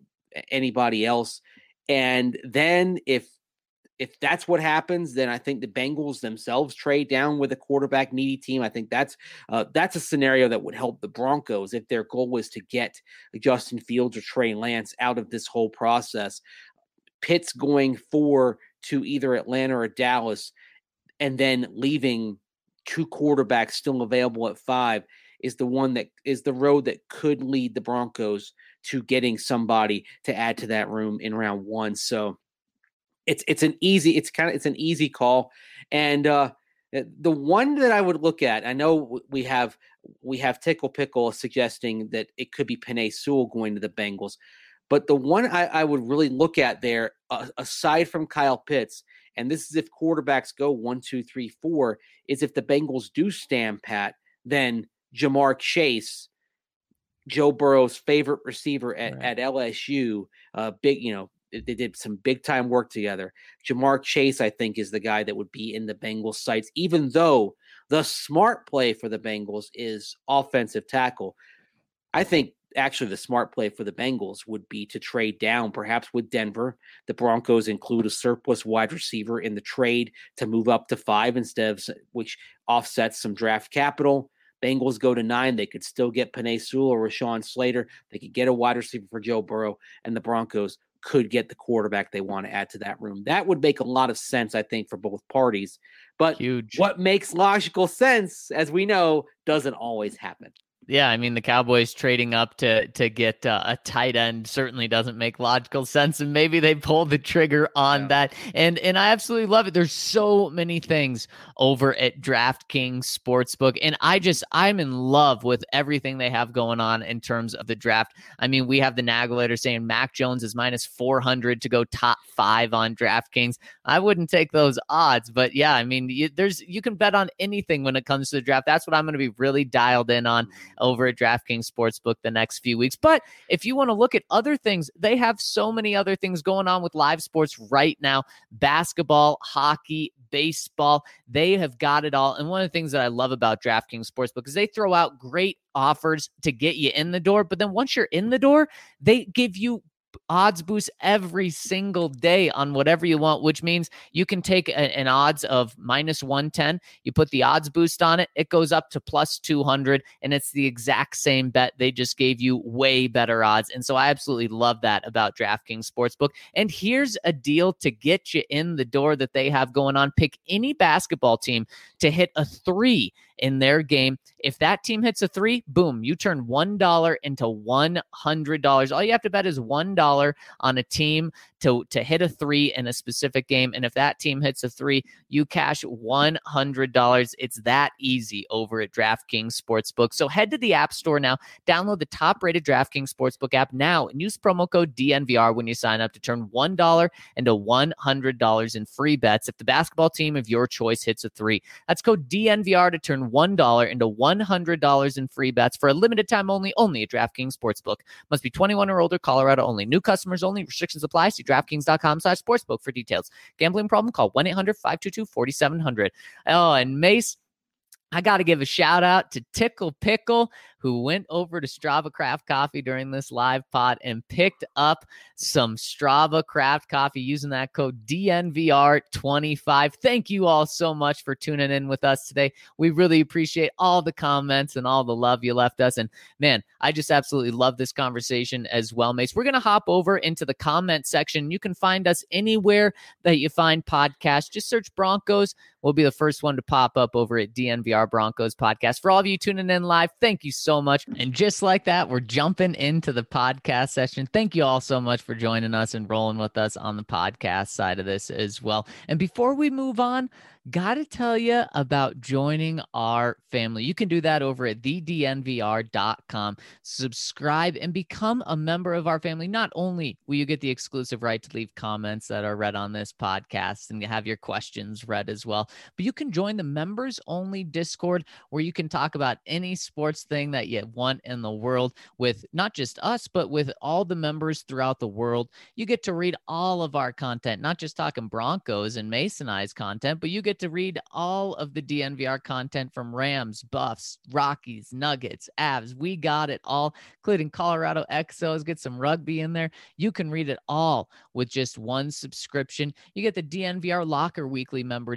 else. And then if that's what happens, then I think the Bengals themselves trade down with a quarterback needy team. I think that's a scenario that would help the Broncos if their goal was to get Justin Fields or Trey Lance out of this whole process. Pitts going 4 to either Atlanta or Dallas, and then leaving 2 quarterbacks still available at 5 is the one that is the road that could lead the Broncos to getting somebody to add to that room in round 1. So it's an easy call. And the one that I would look at, I know we have Tickle Pickle suggesting that it could be Penei Sewell going to the Bengals. But the one I would really look at there, aside from Kyle Pitts, and this is if quarterbacks go 1, 2, 3, 4, is if the Bengals do stand pat, then Jamar Chase, Joe Burrow's favorite receiver at LSU, they did some big time work together. Jamar Chase, I think, is the guy that would be in the Bengals sights, even though the smart play for the Bengals is offensive tackle. I think actually the smart play for the Bengals would be to trade down, perhaps with Denver. The Broncos include a surplus wide receiver in the trade to move up to 5 which offsets some draft capital. Bengals go to 9. They could still get Penei Sewell or Rashawn Slater. They could get a wide receiver for Joe Burrow, and the Broncos could get the quarterback they want to add to that room. That would make a lot of sense, I think, for both parties. But what makes logical sense, as we know, doesn't always happen. Yeah, I mean, the Cowboys trading up to get a tight end certainly doesn't make logical sense, and maybe they pulled the trigger on that. And I absolutely love it. There's so many things over at DraftKings Sportsbook, and I'm in love with everything they have going on in terms of the draft. I mean, we have the Nagulator saying Mac Jones is minus 400 to go top 5 on DraftKings. I wouldn't take those odds, but yeah, I mean, you can bet on anything when it comes to the draft. That's what I'm going to be really dialed in on over at DraftKings Sportsbook the next few weeks. But if you want to look at other things, they have so many other things going on with live sports right now. Basketball, hockey, baseball, they have got it all. And one of the things that I love about DraftKings Sportsbook is they throw out great offers to get you in the door. But then once you're in the door, they give you odds boost every single day on whatever you want, which means you can take an odds of minus 110. You put the odds boost on it. It goes up to plus 200, and it's the exact same bet. They just gave you way better odds. And so I absolutely love that about DraftKings Sportsbook. And here's a deal to get you in the door that they have going on. Pick any basketball team to hit a 3 in their game. If that team hits a 3, boom, you turn $1 into $100. All you have to bet is $1 on a team to hit a 3 in a specific game. And if that team hits a 3, you cash $100. It's that easy over at DraftKings Sportsbook. So head to the App Store now, download the top-rated DraftKings Sportsbook app now, and use promo code DNVR when you sign up to turn $1 into $100 in free bets if the basketball team of your choice hits a 3. That's code DNVR to turn $1 into $100 in free bets for a limited time only at DraftKings Sportsbook. Must be 21 or older, Colorado only. New customers only. Restrictions apply. See DraftKings.com/sportsbook for details. Gambling problem? Call 1-800-522-4700. Oh, and Mace, I got to give a shout out to Tickle Pickle, who went over to Strava Craft Coffee during this live pod and picked up some Strava Craft Coffee using that code DNVR25. Thank you all so much for tuning in with us today. We really appreciate all the comments and all the love you left us. And man, I just absolutely love this conversation as well, Mace. We're going to hop over into the comment section. You can find us anywhere that you find podcasts. Just search Broncos. We'll be the first one to pop up over at DNVR Broncos Podcast. For all of you tuning in live, thank you so much. And just like that, we're jumping into the podcast session. Thank you all so much for joining us and rolling with us on the podcast side of this as well. And before we move on, got to tell you about joining our family. You can do that over at thednvr.com. Subscribe and become a member of our family. Not only will you get the exclusive right to leave comments that are read on this podcast and you have your questions read as well, but you can join the members only Discord where you can talk about any sports thing that you want in the world with not just us, but with all the members throughout the world. You get to read all of our content, not just talking Broncos and Mason Eyes content, but you get to read all of the DNVR content from Rams, Buffs, Rockies, Nuggets, Avs. We got it all, including Colorado Exos. Get some rugby in there. You can read it all with just one subscription. You get the DNVR Locker weekly member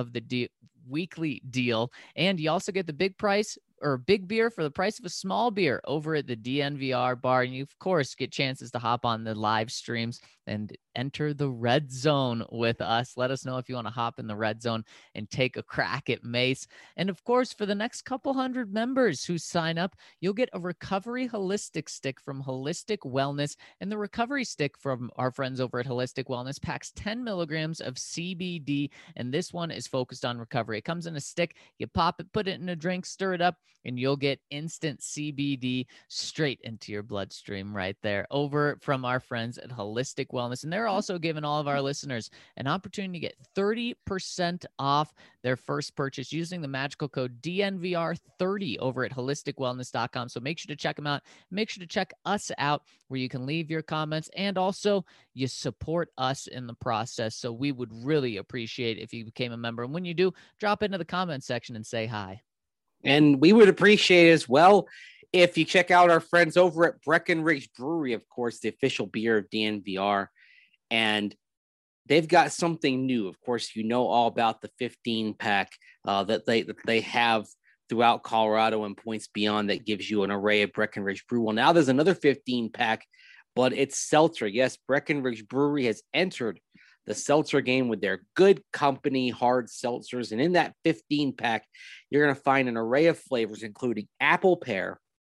weekly deal, and you also get the big beer for the price of a small beer over at the DNVR bar. And you, of course, get chances to hop on the live streams and enter the red zone with us. Let us know if you want to hop in the red zone and take a crack at Mace. And of course, for the next couple hundred members who sign up, you'll get a recovery holistic stick from Holistic Wellness. And the recovery stick from our friends over at Holistic Wellness packs 10 milligrams of CBD. And this one is focused on recovery. It comes in a stick. You pop it, put it in a drink, stir it up, and you'll get instant CBD straight into your bloodstream right there over from our friends at Holistic Wellness. And they're also giving all of our listeners an opportunity to get 30% off their first purchase using the magical code DNVR30 over at holisticwellness.com. So make sure to check them out. Make sure to check us out where you can leave your comments, and also you support us in the process. So we would really appreciate if you became a member. And when you do, drop into the comment section and say hi. And we would appreciate as well if you check out our friends over at Breckenridge Brewery, of course, the official beer of DNVR. And they've got something new. Of course, you know all about the 15-pack that they have throughout Colorado and points beyond that gives you an array of Breckenridge Brew. Well, now there's another 15-pack, but it's seltzer. Yes, Breckenridge Brewery has entered the seltzer game with their Good Company hard seltzers. And in that 15-pack, you're going to find an array of flavors, including apple pear,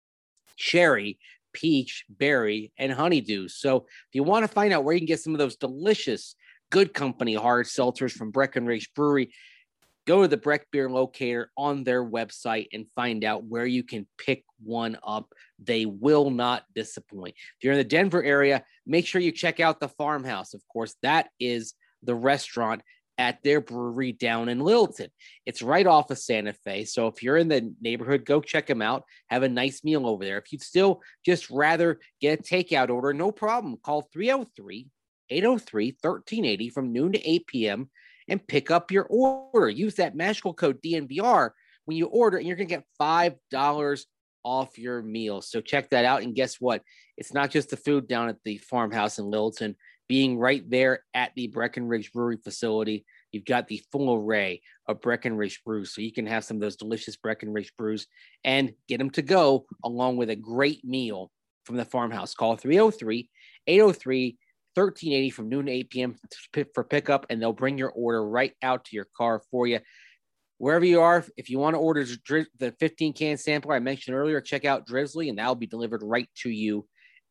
cherry, peach, berry, and honeydew. So if you want to find out where you can get some of those delicious Good Company hard seltzers from Breckenridge Brewery, go to the Breck Beer Locator on their website and find out where you can pick one up. They will not disappoint. If you're in the Denver area, make sure you check out the Farmhouse. Of course, that is the restaurant at their brewery down in Littleton. It's right off of Santa Fe. So if you're in the neighborhood, go check them out. Have a nice meal over there. If you'd still just rather get a takeout order, no problem. Call 303-803-1380 from noon to 8 p.m. and pick up your order. Use that magical code DNVR when you order, and you're going to get $5 off your meal. So check that out. And guess what? It's not just the food down at the Farmhouse in Littleton. Being right there at the Breckenridge Brewery facility, you've got the full array of Breckenridge brews. So you can have some of those delicious Breckenridge brews and get them to go along with a great meal from the Farmhouse. Call 303-803-1380 from noon to 8 p.m. for pickup, and they'll bring your order right out to your car for you. Wherever you are, if you want to order the 15-can sampler I mentioned earlier, check out Drizzly, and that'll be delivered right to you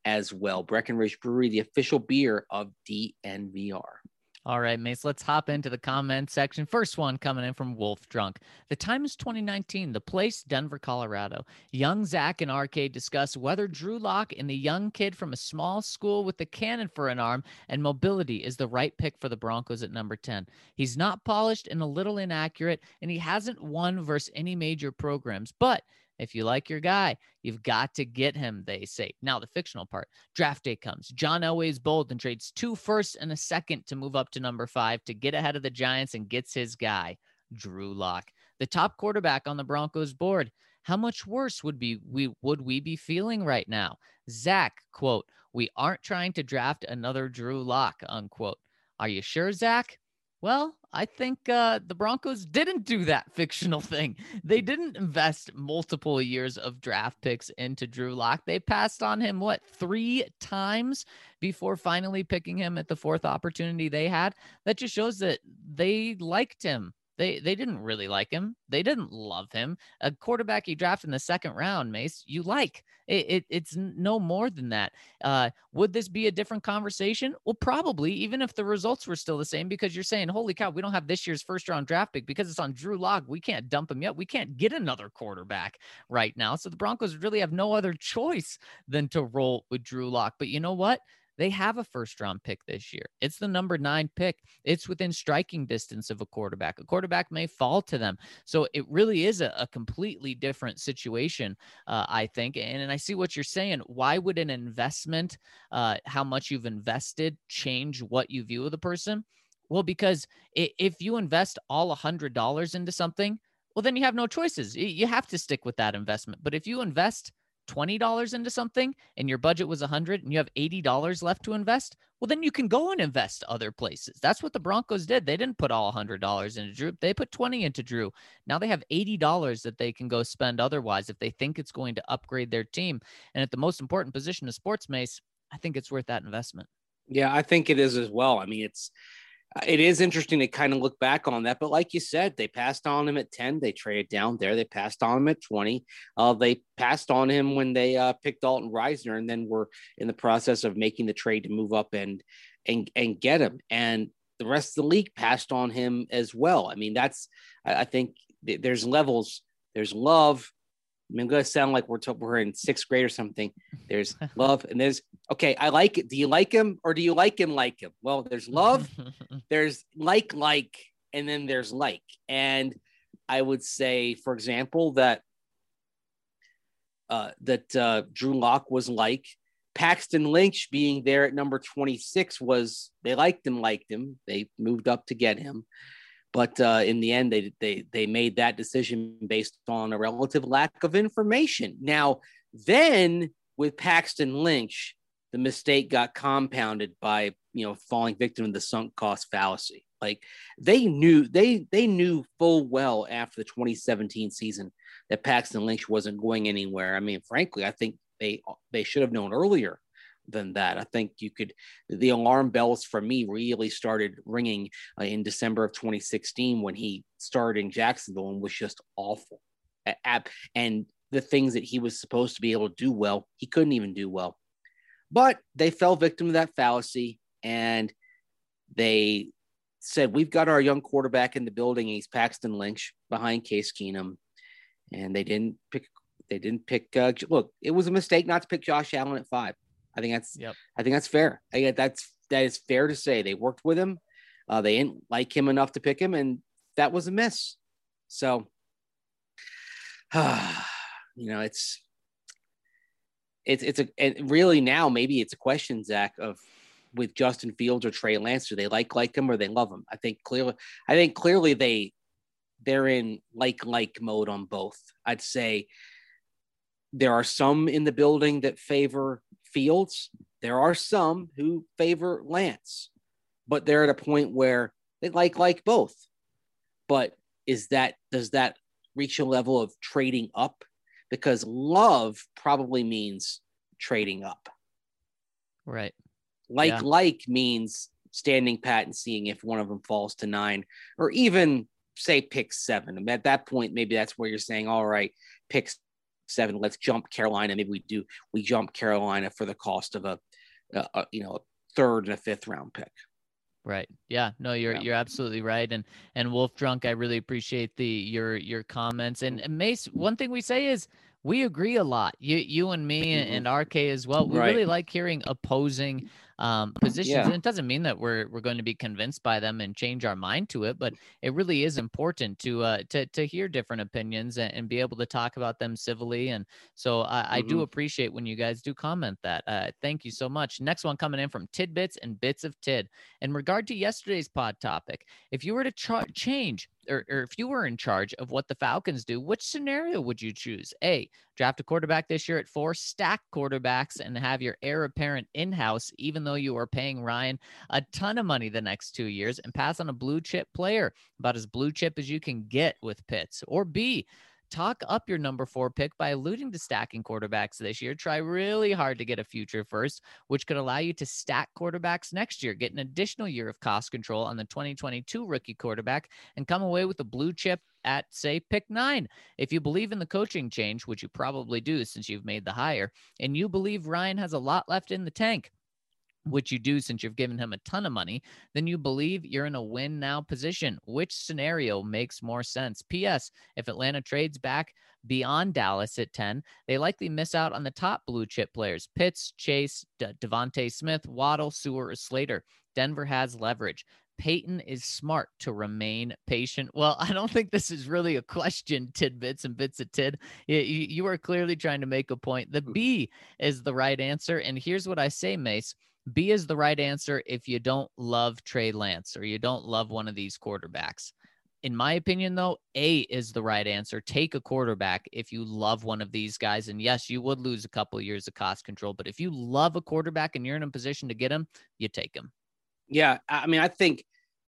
as well. Breckenridge Brewery, the official beer of DNVR. All right, Mace, let's hop into the comment section. First one coming in from Wolf Drunk. The time is 2019. The place, Denver, Colorado. Young Zach and Arcade discuss whether Drew Lock and the young kid from a small school with a cannon for an arm and mobility is the right pick for the Broncos at number 10. He's not polished and a little inaccurate, and he hasn't won versus any major programs, but if you like your guy, you've got to get him, they say. Now, the fictional part. Draft day comes. John Elway's bold and trades 2 firsts and a second to move up to number 5 to get ahead of the Giants and gets his guy, Drew Lock, the top quarterback on the Broncos board. How much worse would we be feeling right now? Zach, quote, "We aren't trying to draft another Drew Lock," unquote. Are you sure, Zach? Well, I think the Broncos didn't do that fictional thing. They didn't invest multiple years of draft picks into Drew Lock. They passed on him, 3 times before finally picking him at the 4th opportunity they had? That just shows that they liked him. They didn't really like him. They didn't love him. A quarterback you draft in the 2nd round, Mace, you like. It's no more than that. Would this be a different conversation? Well, probably, even if the results were still the same, because you're saying, holy cow, we don't have this year's 1st-round draft pick because it's on Drew Lock. We can't dump him yet. We can't get another quarterback right now. So the Broncos really have no other choice than to roll with Drew Lock. But you know what? They have a 1st-round pick this year. It's the number 9 pick. It's within striking distance of a quarterback. A quarterback may fall to them. So it really is a completely different situation, I think. And I see what you're saying. Why would an investment, how much you've invested, change what you view of the person? Well, because if you invest all $100 into something, well, then you have no choices. You have to stick with that investment. But if you invest $20 into something and your budget was $100 and you have $80 left to invest, well, then you can go and invest other places. That's what the Broncos did. They didn't put all $100 into Drew. They put 20 into Drew. Now they have $80 that they can go spend otherwise if they think it's going to upgrade their team. And at the most important position of sports, Mace, I think it's worth that investment. Yeah, I think it is as well. I mean, it is interesting to kind of look back on that, but like you said, they passed on him at 10. They traded down there. They passed on him at 20. They passed on him when they picked Dalton Reisner, and then were in the process of making the trade to move up and get him. And the rest of the league passed on him as well. I mean, I think there's levels. There's love. I mean, I'm going to sound like we're in 6th grade or something. There's love and there's, okay, I like it. Do you like him or do you like him? Well, there's love, there's like, and then there's like. And I would say, for example, that Drew Lock was like. Paxton Lynch being there at number 26 they liked him. They moved up to get him. But in the end, they made that decision based on a relative lack of information. Now, then with Paxton Lynch, the mistake got compounded by, falling victim to the sunk cost fallacy. Like they knew full well after the 2017 season that Paxton Lynch wasn't going anywhere. I mean, frankly, I think they should have known earlier than that. I think the alarm bells for me really started ringing in December of 2016 when he started in Jacksonville and was just awful. And the things that he was supposed to be able to do well, he couldn't even do well. But they fell victim to that fallacy, and they said, we've got our young quarterback in the building. He's Paxton Lynch behind Case Keenum. And they didn't pick, look, it was a mistake not to pick Josh Allen at 5. I think that's fair. That is fair to say. They worked with him. They didn't like him enough to pick him, and that was a miss. So, it's really now maybe it's a question, Zach, of with Justin Fields or Trey Lance, do they like him or they love him? I think clearly they're in like mode on both. I'd say there are some in the building that favor Fields. There are some who favor Lance, but they're at a point where they like both. But does that reach a level of trading up? Because love probably means trading up. Right. Like means standing pat and seeing if one of them falls to 9 or even say pick 7. And at that point, maybe that's where you're saying, all right, pick 7. Let's jump Carolina. Maybe we jump Carolina for the cost of a third and a fifth round pick. Right. Yeah. No, you're absolutely right. And Wolf Drunk, I really appreciate your comments. And Mace, one thing we say is we agree a lot. You and me and RK as well. We really like hearing opposing positions. And it doesn't mean that we're going to be convinced by them and change our mind to it, but it really is important to hear different opinions and be able to talk about them civilly. And so I do appreciate when you guys do comment that. Thank you so much. Next one coming in from Tidbits and Bits of Tid. In regard to yesterday's pod topic, if you were to change or if you were in charge of what the Falcons do, which scenario would you choose? A, draft a quarterback this year at 4, stack quarterbacks, and have your heir apparent in-house, even though you are paying Ryan a ton of money the next 2 years, and pass on a blue chip player, about as blue chip as you can get with Pitts. Or B, talk up your number 4 pick by alluding to stacking quarterbacks this year. Try really hard to get a future first, which could allow you to stack quarterbacks next year, get an additional year of cost control on the 2022 rookie quarterback, and come away with a blue chip at, say, pick 9. If you believe in the coaching change, which you probably do since you've made the hire, and you believe Ryan has a lot left in the tank, which you do since you've given him a ton of money, then you believe you're in a win now position. Which scenario makes more sense? P.S. If Atlanta trades back beyond Dallas at 10, they likely miss out on the top blue chip players: Pitts, Chase, Devontae Smith, Waddle, Sewell, or Slater. Denver has leverage. Peyton is smart to remain patient. Well, I don't think this is really a question, Tidbits and Bits of Tid. You are clearly trying to make a point. The B is the right answer. And here's what I say, Mace. B is the right answer if you don't love Trey Lance or you don't love one of these quarterbacks. In my opinion, though, A is the right answer. Take a quarterback if you love one of these guys. And yes, you would lose a couple of years of cost control, but if you love a quarterback and you're in a position to get him, you take him. Yeah, I mean, I think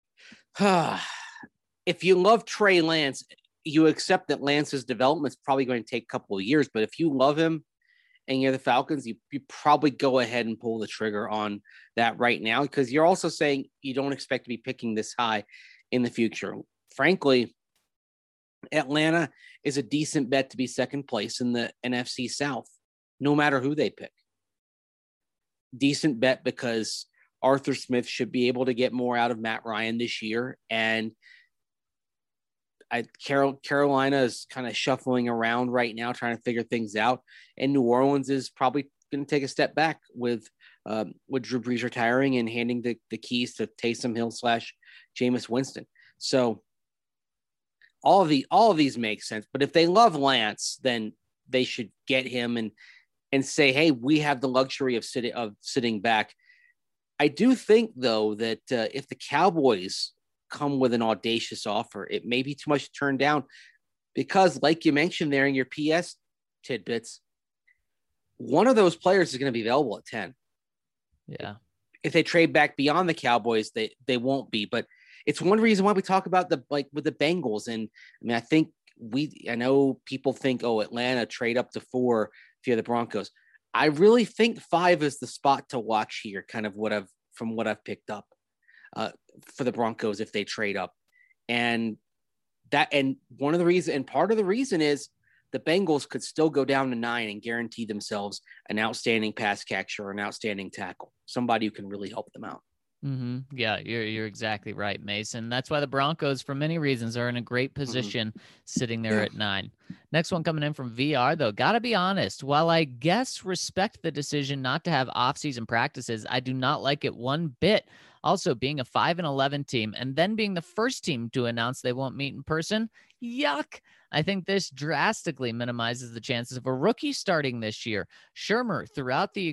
if you love Trey Lance, you accept that Lance's development is probably going to take a couple of years. But if you love him and you're the Falcons, you probably go ahead and pull the trigger on that right now, because you're also saying you don't expect to be picking this high in the future. Frankly, Atlanta is a decent bet to be second place in the NFC South, no matter who they pick. Decent bet because Arthur Smith should be able to get more out of Matt Ryan this year. And Carolina is kind of shuffling around right now, trying to figure things out. And New Orleans is probably going to take a step back with Drew Brees retiring and handing the keys to Taysom Hill / Jameis Winston. So all of these make sense. But if they love Lance, then they should get him and say, hey, we have the luxury of sitting back. I do think, though, that if the Cowboys come with an audacious offer, it may be too much to turn down, because like you mentioned there in your PS tidbits, one of those players is going to be available at 10. Yeah. If they trade back beyond the Cowboys, they won't be, but it's one reason why we talk about with the Bengals. And I mean, I know people think, oh, Atlanta trade up to 4 if you're the Broncos. I really think 5 is the spot to watch here, kind of from what I've picked up. For the Broncos if they trade up. And part of the reason is the Bengals could still go down to 9 and guarantee themselves an outstanding pass catcher or an outstanding tackle, somebody who can really help them out. Mm-hmm. Yeah, you're exactly right, Mason. That's why the Broncos, for many reasons, are in a great position sitting there at 9. Next one coming in from VR, though. Gotta be honest, while I guess respect the decision not to have off-season practices, I do not like it one bit. Also, being a 5-11 team and then being the first team to announce they won't meet in person, yuck. I think this drastically minimizes the chances of a rookie starting this year. Shermer, throughout the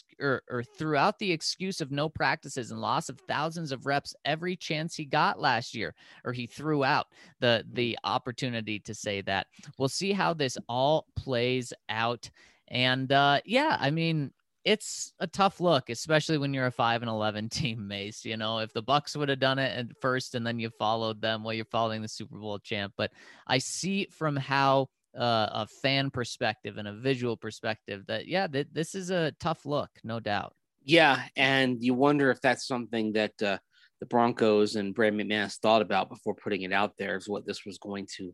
excuse of no practices and loss of thousands of reps every chance he got last year, or he threw out the opportunity to say that. We'll see how this all plays out. And yeah, I mean, it's a tough look, especially when you're a 5-11 team, Mace. You know, if the Bucks would have done it at first and then you followed them while you're following the Super Bowl champ. But I see from how a fan perspective and a visual perspective that, yeah, this is a tough look, no doubt. Yeah, and you wonder if that's something that the Broncos and Brad McManus thought about before putting it out there, is what this was going to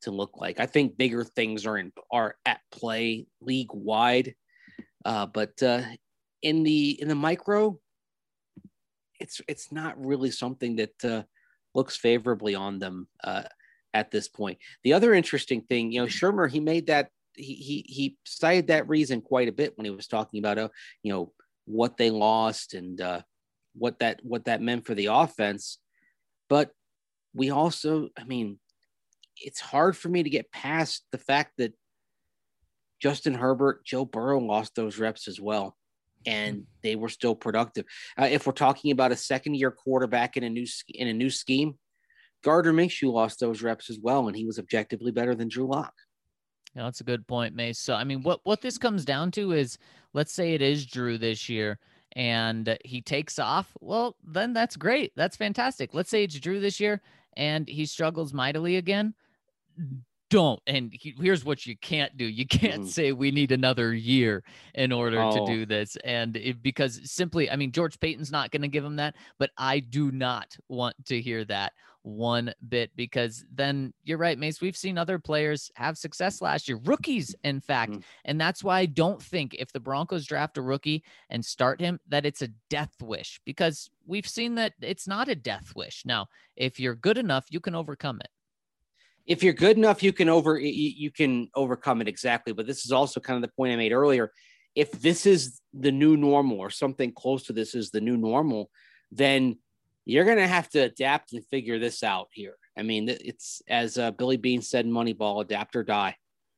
to look like. I think bigger things are at play league wide, but in the micro, it's not really something that looks favorably on them at this point. The other interesting thing, Shermer, he made that he cited that reason quite a bit when he was talking about what they lost and what that meant for the offense. But we also, it's hard for me to get past the fact that Justin Herbert, Joe Burrow lost those reps as well, and they were still productive. If we're talking about a second-year quarterback in a new scheme, Gardner Minshew lost those reps as well, and he was objectively better than Drew Lock. Yeah, that's a good point, Mace. So, what this comes down to is, let's say it is Drew this year, and he takes off. Well, then that's great. That's fantastic. Let's say it's Drew this year, and he struggles mightily again. Don't. And here's what you can't do. You can't say we need another year in order to do this. And because simply, George Payton's not going to give him that, but I do not want to hear that one bit, because then you're right, Mace. We've seen other players have success last year, rookies, in fact. And that's why I don't think if the Broncos draft a rookie and start him, that it's a death wish, because we've seen that it's not a death wish. Now, if you're good enough, you can overcome it. If you're good enough, you can overcome it. Exactly. But this is also kind of the point I made earlier. If this is the new normal, or something close to this is the new normal, then you're going to have to adapt and figure this out here. It's, as Billy Beane said in Moneyball, adapt or die.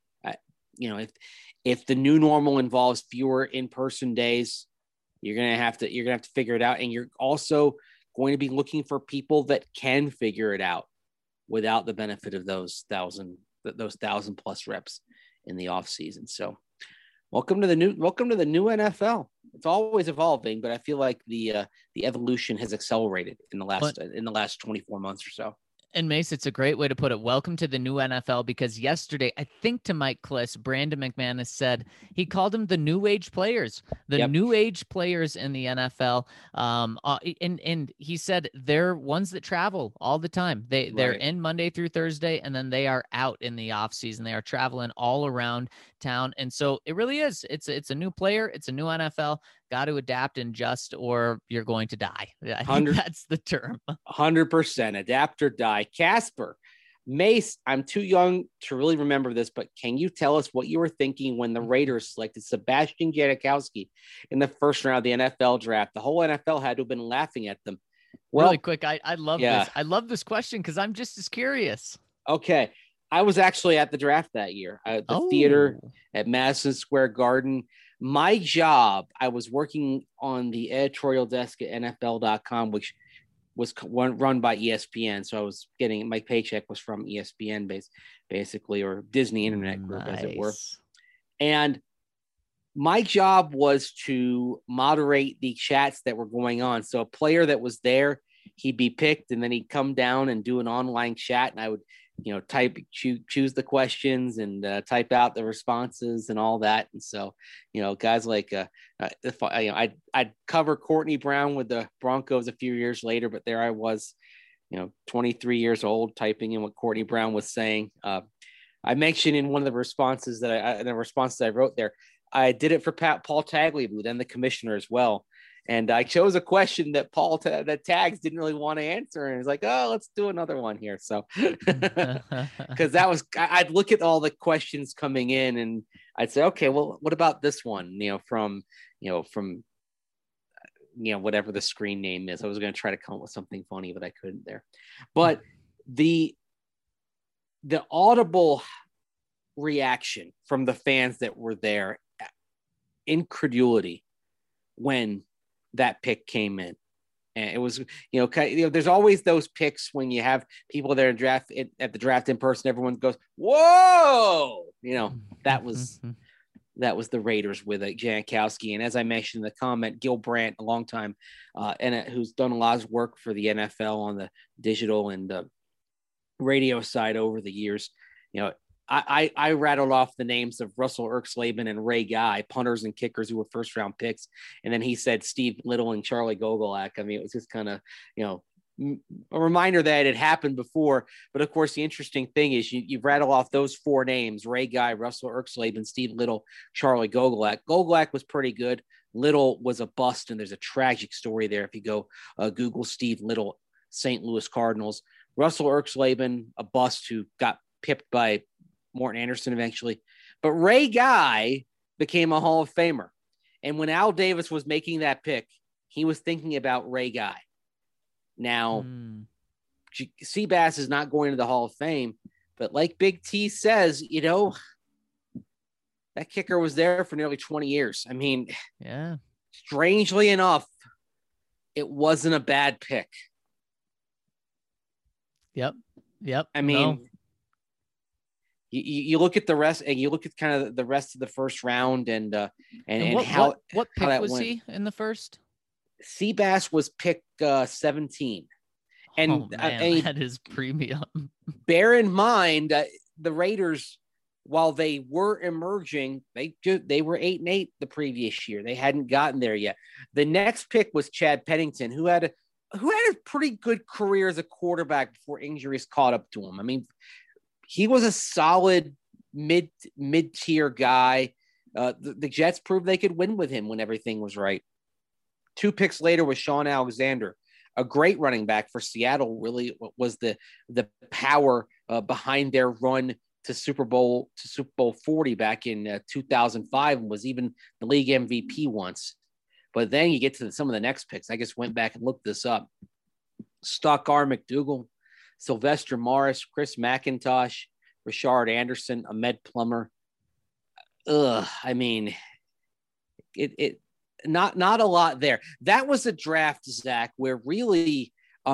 If the new normal involves fewer in-person days, you're going to have to figure it out. And you're also going to be looking for people that can figure it out without the benefit of those 1,000+ reps in the off season. So welcome to the new NFL. It's always evolving, but I feel like the evolution has accelerated in the last 24 months or so. And Mace, it's a great way to put it. Welcome to the new NFL, because yesterday, I think to Mike Kliss, Brandon McManus said he called them the new age players, new age players in the NFL. And he said they're ones that travel all the time. They're in Monday through Thursday, and then they are out in the off season. They are traveling all around town. And so it really is. It's a new player. It's a new NFL. Got to adapt and adjust, or you're going to die. I think that's the term. 100% adapt or die. Casper, Mace, I'm too young to really remember this, but can you tell us what you were thinking when the Raiders selected Sebastian Janikowski in the first round of the NFL draft? The whole NFL had to have been laughing at them. Well, really quick, I love this. I love this question because I'm just as curious. Okay. I was actually at the draft that year at the theater at Madison Square Garden. My job, I was working on the editorial desk at NFL.com, which was run by ESPN. So I was getting, my paycheck was from ESPN basically, or Disney Internet Group, as it were. And my job was to moderate the chats that were going on. So a player that was there, he'd be picked, and then he'd come down and do an online chat, and I would choose the questions and type out the responses and all that. And so, guys like I'd cover Courtney Brown with the Broncos a few years later, but there I was, 23 years old, typing in what Courtney Brown was saying. I mentioned in one of the responses that I wrote there, I did it for Paul Tagliabue, then the commissioner as well. And I chose a question that that Tags didn't really want to answer. And it's like, oh, let's do another one here. So, because I'd look at all the questions coming in and I'd say, okay, well, what about this one? From whatever the screen name is. I was going to try to come up with something funny, but I couldn't there. But the audible reaction from the fans that were there, incredulity when that pick came in. And it was, there's always those picks when you have people there at the draft in person, everyone goes, whoa, that was the Raiders with Janikowski. And as I mentioned in the comment, Gil Brandt, a long time, and who's done a lot of work for the NFL on the digital and the radio side over the years. I rattled off the names of Russell Erxleben and Ray Guy, punters and kickers who were first round picks. And then he said Steve Little and Charlie Gogolak. It was just kind of, a reminder that it happened before. But of course, the interesting thing is you rattle off those 4 names: Ray Guy, Russell Erxleben, Steve Little, Charlie Gogolak. Gogolak was pretty good. Little was a bust, and there's a tragic story there if you go Google Steve Little, St. Louis Cardinals. Russell Erxleben, a bust who got pipped by Morton Anderson eventually. But Ray Guy became a Hall of Famer. And when Al Davis was making that pick, he was thinking about Ray Guy. Now, Seabass is not going to the Hall of Fame, but like Big T says, that kicker was there for nearly 20 years. I mean, yeah. Strangely enough, it wasn't a bad pick. Yep. I mean, you look at the rest, and you look at kind of the rest of the first round, and what pick how was went. he in the first? Seabass was pick 17, and that is premium. Bear in mind the Raiders, while they were emerging, they were 8-8 the previous year. They hadn't gotten there yet. The next pick was Chad Pennington, who had a pretty good career as a quarterback before injuries caught up to him. I mean, he was a solid mid-tier guy. The Jets proved they could win with him when everything was right. 2 picks later was Sean Alexander, a great running back for Seattle. Really was the power behind their run to Super Bowl 40 back in 2005, and was even the league MVP once. But then you get to some of the next picks. I just went back and looked this up. Stock R. McDougal, Sylvester Morris, Chris McIntosh, Richard Anderson, Ahmed Plummer. I mean, it not a lot there. That was a draft, Zach, where really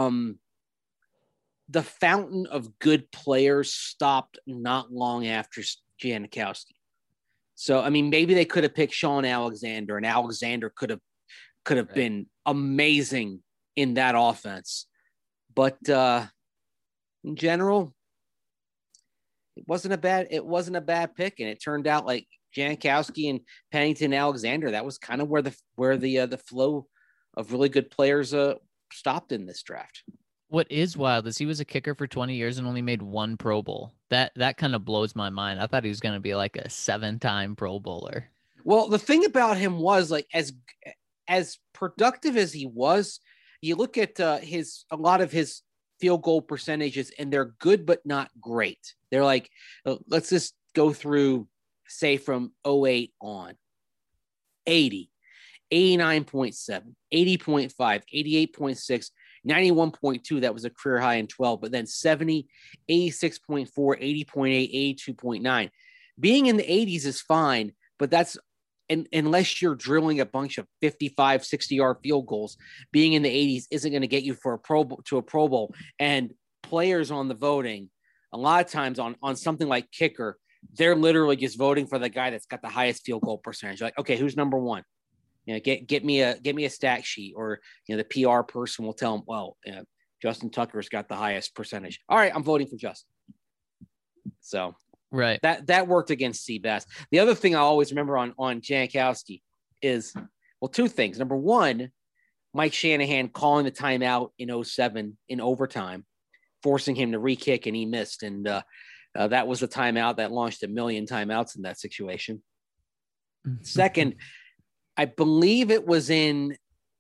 the fountain of good players stopped not long after Janikowski. So, I mean, maybe they could have picked Sean Alexander, and Alexander could have been amazing in that offense. But in general, it wasn't a bad pick, and it turned out like Janikowski and Pennington Alexander, that was kind of where the flow of really good players stopped in this draft. What is wild is he was a kicker for 20 years and only made 1 Pro Bowl. That kind of blows my mind. I thought he was going to be like a 7-time Pro Bowler. Well, the thing about him was, like, as productive as he was, you look at a lot of his field goal percentages, and they're good but not great. They're like, let's just go through, say, from 08 on. 80, 89.7, 80.5, 88.6, 91.2, that was a career high in 12, but then 70, 86.4, 80.8, 82.9. Being in the 80s is fine, but that's unless you're drilling a bunch of 55, 60-yard field goals, being in the 80s isn't going to get you for a Pro Bowl. And players on the voting, a lot of times on something like kicker, they're literally just voting for the guy that's got the highest field goal percentage. Like, okay, who's number 1? Get me a stat sheet, or the PR person will tell them, well, Justin Tucker's got the highest percentage. All right, I'm voting for Justin. So right, that worked against Seabass. The other thing I always remember on Janikowski is, well, 2 things. Number 1, Mike Shanahan calling the timeout in 2007 in overtime, forcing him to re-kick, and he missed, and that was a timeout that launched 1 million timeouts in that situation. Second, I believe it was in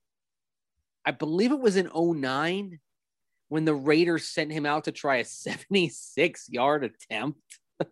2009 when the Raiders sent him out to try a 76-yard attempt.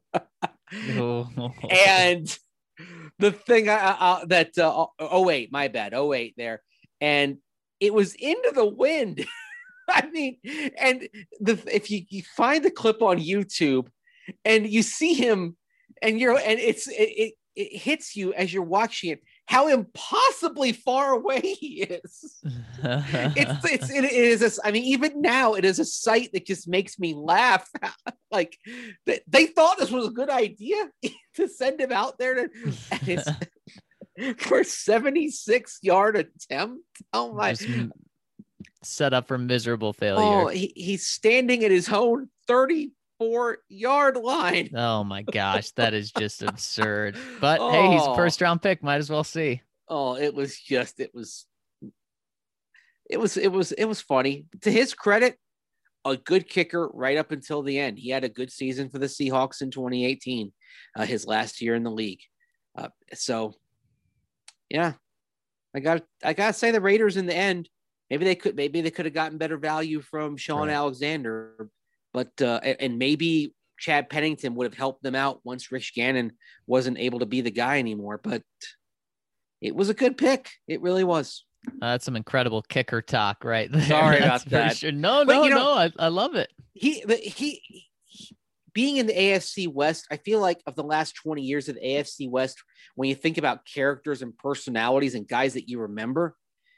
And the thing 08, my bad, 08 there. And it was into the wind. I mean, and if you find the clip on YouTube and you see him, and it hits you as you're watching it, how impossibly far away he is. It is. I mean, even now, it is a sight that just makes me laugh. Like, they thought this was a good idea to send him out there for a 76-yard attempt. Oh my! Set up for miserable failure. Oh, he's standing at his own 34-yard line. Oh my gosh, that is just absurd. But hey, he's a 1st-round pick. Might as well see. Oh, it was it was funny. To his credit, a good kicker right up until the end. He had a good season for the Seahawks in 2018, his last year in the league. So, yeah, I gotta say the Raiders in the end. Maybe they could have gotten better value from Sean Alexander, but and maybe Chad Pennington would have helped them out once Rich Gannon wasn't able to be the guy anymore. But it was a good pick. It really was. That's some incredible kicker talk right there. Sorry about that. Sure. No. I love it. He being in the AFC West, I feel like of the last 20 years of the AFC West, when you think about characters and personalities and guys that you remember,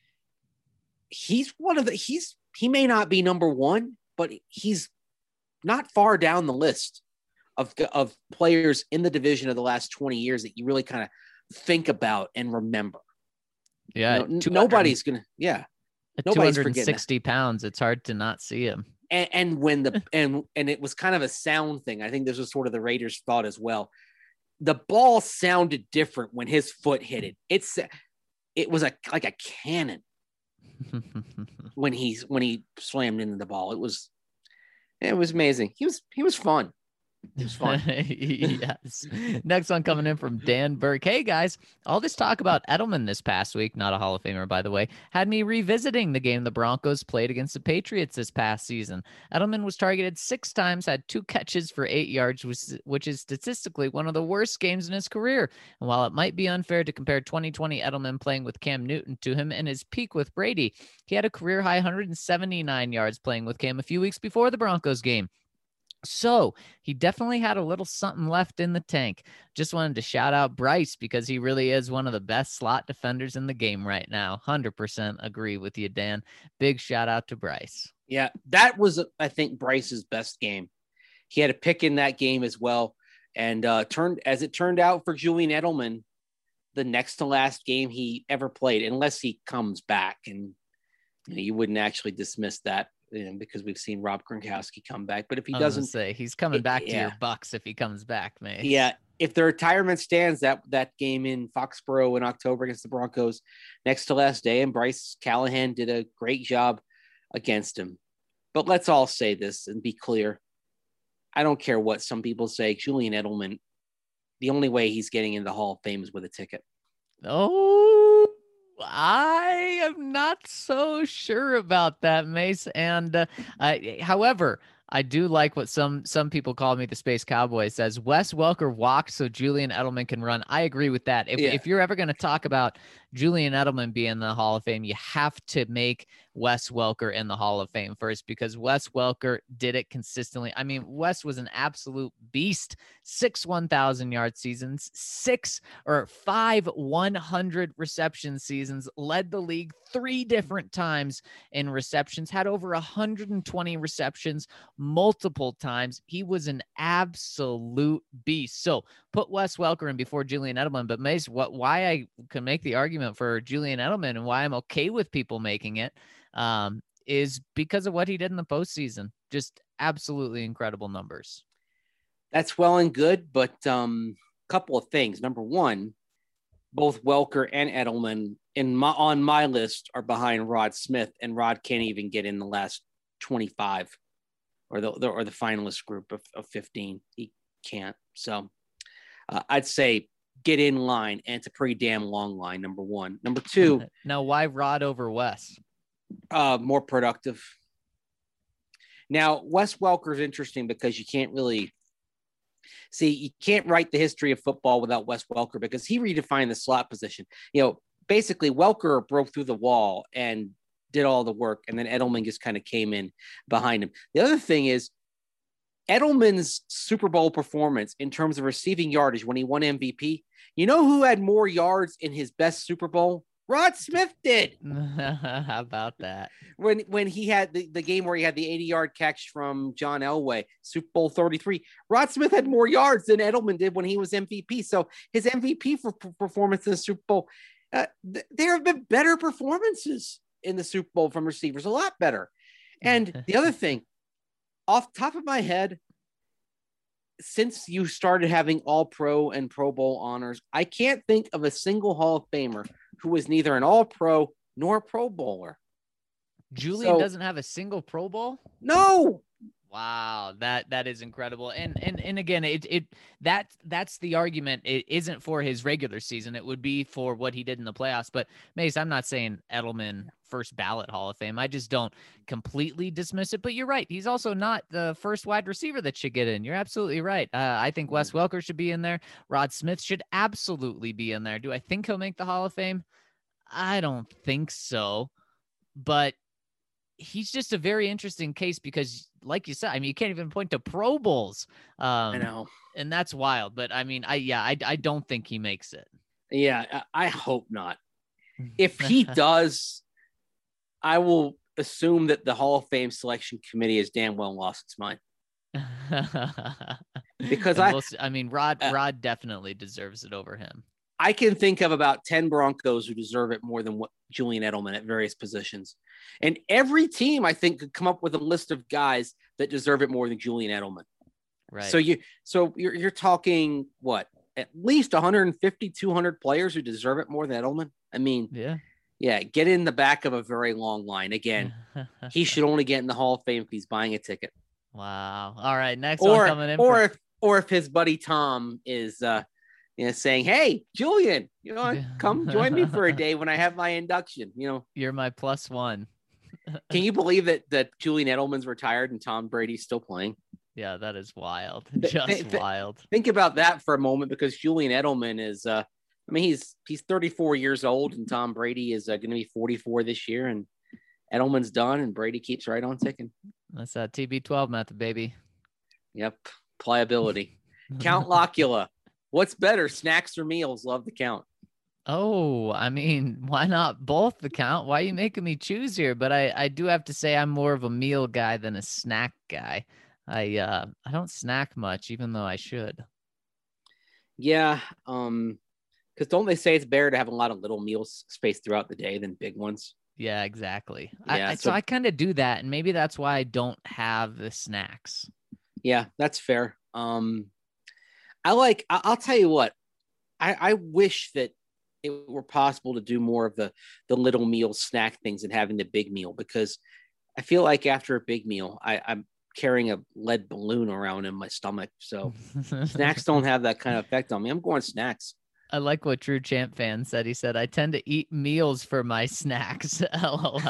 he may not be number one, but he's not far down the list of players in the division of the last 20 years that you really kind of think about and remember. Yeah. Nobody's going to, nobody's 260 pounds. It's hard to not see him. And when and it was kind of a sound thing. I think this was sort of the Raiders' thought as well. The ball sounded different when his foot hit it. It was like a cannon when he slammed into the ball. It was amazing. He was fun. It was fun. Yes. Next one coming in from Dan Burke. Hey guys, all this talk about Edelman this past week, not a Hall of Famer, by the way, had me revisiting the game the Broncos played against the Patriots this past season. Edelman was targeted 6 times, had 2 catches for 8 yards, which is statistically one of the worst games in his career. And while it might be unfair to compare 2020 Edelman playing with Cam Newton to him and his peak with Brady, he had a career high 179 yards playing with Cam a few weeks before the Broncos game. So he definitely had a little something left in the tank. Just wanted to shout out Bryce because he really is one of the best slot defenders in the game right now. 100% agree with you, Dan. Big shout out to Bryce. Yeah, that was, I think, Bryce's best game. He had a pick in that game as well. And it turned out for Julian Edelman, the next to last game he ever played, unless he comes back. And you wouldn't actually dismiss that. Because we've seen Rob Gronkowski come back, but if he doesn't, he's coming back to your Bucks if he comes back, man. Yeah, if the retirement stands, that game in Foxborough in October against the Broncos, next to last day, and Bryce Callahan did a great job against him. But let's all say this and be clear: I don't care what some people say. Julian Edelman, the only way he's getting into the Hall of Fame is with a ticket. Oh. I am not so sure about that, Mace. And however, I do like what some people call me the Space Cowboy. Says Wes Welker walked so Julian Edelman can run. I agree with that. If you're ever going to talk about Julian Edelman being in the Hall of Fame, you have to make Wes Welker in the Hall of Fame first, because Wes Welker did it consistently. I mean, Wes was an absolute beast. 6 1,000-yard seasons, 5 100 reception seasons, led the league 3 different times in receptions, had over 120 receptions multiple times. He was an absolute beast. So put Wes Welker in before Julian Edelman. But Mace, why I can make the argument for Julian Edelman and why I'm okay with people making it is because of what he did in the postseason. Just absolutely incredible numbers. That's well and good, but couple of things. Number one, both Welker and Edelman on my list are behind Rod Smith, and Rod can't even get in the last 25 or the finalist group of 15. He can't. So I'd say get in line, and it's a pretty damn long line, number one. Number two. Now, why Rod over Wes? More productive. Now, Wes Welker is interesting because you can't write the history of football without Wes Welker, because he redefined the slot position. Basically Welker broke through the wall and did all the work, and then Edelman just kind of came in behind him. The other thing is Edelman's Super Bowl performance in terms of receiving yardage when he won MVP. You know who had more yards in his best Super Bowl? Rod Smith did. How about that? When he had the game where he had the 80-yard catch from John Elway, Super Bowl 33, Rod Smith had more yards than Edelman did when he was MVP. So his MVP performance in the Super Bowl, there have been better performances in the Super Bowl from receivers, a lot better. And the other thing, off the top of my head, since you started having All-Pro and Pro Bowl honors, I can't think of a single Hall of Famer who was neither an All-Pro nor a Pro Bowler. Julian doesn't have a single Pro Bowl? No. Wow, that is incredible. And again, that's the argument. It isn't for his regular season. It would be for what he did in the playoffs. But Mace, I'm not saying Edelman first ballot Hall of Fame. I just don't completely dismiss it. But you're right. He's also not the first wide receiver that should get in. You're absolutely right. I think Wes Welker should be in there. Rod Smith should absolutely be in there. Do I think he'll make the Hall of Fame? I don't think so. But he's just a very interesting case because, like you said, I mean, you can't even point to Pro Bowls. I know. And that's wild. But I mean, I don't think he makes it. Yeah, I hope not. If he does, I will assume that the Hall of Fame selection committee has damn well lost its mind. Because Rod definitely deserves it over him. I can think of about 10 Broncos who deserve it more than what Julian Edelman at various positions. And every team, I think, could come up with a list of guys that deserve it more than Julian Edelman. Right. So you're talking what? At least 150, 200 players who deserve it more than Edelman. I mean, yeah, get in the back of a very long line. Again, he should only get in the Hall of Fame if he's buying a ticket. Wow. All right, next one coming in. Or if his buddy Tom is saying, "Hey, Julian, come join me for a day when I have my induction." You're my +1. Can you believe that Julian Edelman's retired and Tom Brady's still playing? Yeah, that is wild. Just wild. Think about that for a moment, because Julian Edelman is, he's 34 years old, and Tom Brady is going to be 44 this year, and Edelman's done, and Brady keeps right on ticking. That's that TB12 method, baby. Yep, pliability. Count Locula. What's better, snacks or meals? Love the count. Oh, I mean, why not both the count? Why are you making me choose here? But I do have to say I'm more of a meal guy than a snack guy. I don't snack much, even though I should. Yeah, because don't they say it's better to have a lot of little meals spaced throughout the day than big ones? Yeah, exactly. Yeah, so I kind of do that, and maybe that's why I don't have the snacks. Yeah, that's fair. I'll tell you what, I wish that it were possible to do more of the little meal snack things than having the big meal, because I feel like after a big meal, I'm carrying a lead balloon around in my stomach. So snacks don't have that kind of effect on me. I'm going snacks. I like what True Champ fan said. He said, I tend to eat meals for my snacks. LOL.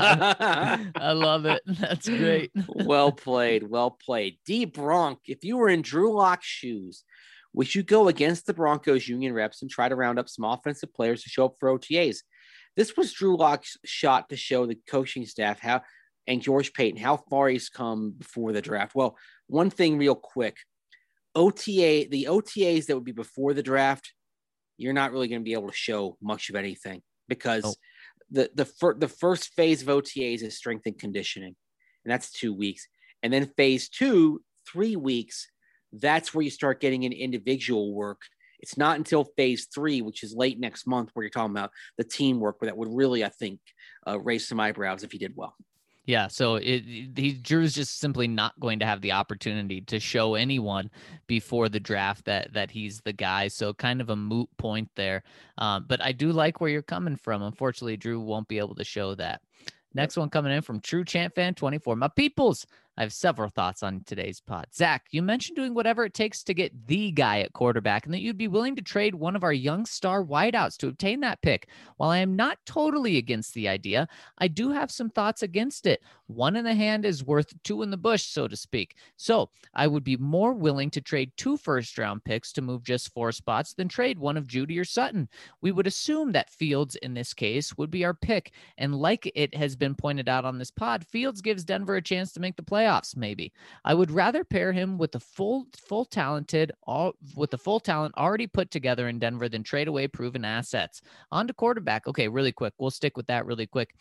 I love it. That's great. Well played. Well played. D Bronk, if you were in Drew Lock's shoes, would you go against the Broncos union reps and try to round up some offensive players to show up for OTAs? This was Drew Lock's shot to show the coaching staff and George Paton how far he's come before the draft. Well, one thing real quick, the OTAs that would be before the draft, you're not really going to be able to show much of anything, because the first phase of OTAs is strength and conditioning, and that's 2 weeks. And then phase 2, 3 weeks, that's where you start getting into individual work. It's not until phase 3, which is late next month, where you're talking about the teamwork, where that would really, I think, raise some eyebrows if he did well. Yeah, so Drew's just simply not going to have the opportunity to show anyone before the draft that he's the guy. So kind of a moot point there. But I do like where you're coming from. Unfortunately, Drew won't be able to show that. Next one coming in from True Champ Fan 24. My peoples, I have several thoughts on today's pod. Zach, you mentioned doing whatever it takes to get the guy at quarterback, and that you'd be willing to trade one of our young star wideouts to obtain that pick. While I am not totally against the idea, I do have some thoughts against it. One in the hand is worth two in the bush, so to speak. So I would be more willing to trade 2 first-round picks to move just 4 spots than trade one of Jeudy or Sutton. We would assume that Fields, in this case, would be our pick, and like it has been pointed out on this pod, Fields gives Denver a chance to make the playoffs. Maybe I would rather pair him with the full talent already put together in Denver than trade away proven assets. On to quarterback. Okay, really quick. We'll stick with that really quick.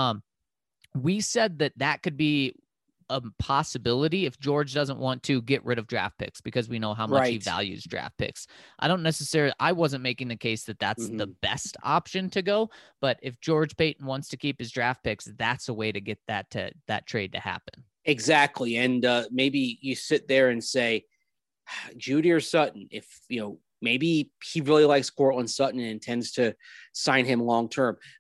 We said that could be a possibility if George doesn't want to get rid of draft picks, because we know how much he values draft picks. I wasn't making the case that that's the best option to go, but if George Paton wants to keep his draft picks, that's a way to get that trade to happen. Exactly. And maybe you sit there and say, Jeudy or Sutton, if, maybe he really likes Courtland Sutton and intends to sign him long-term.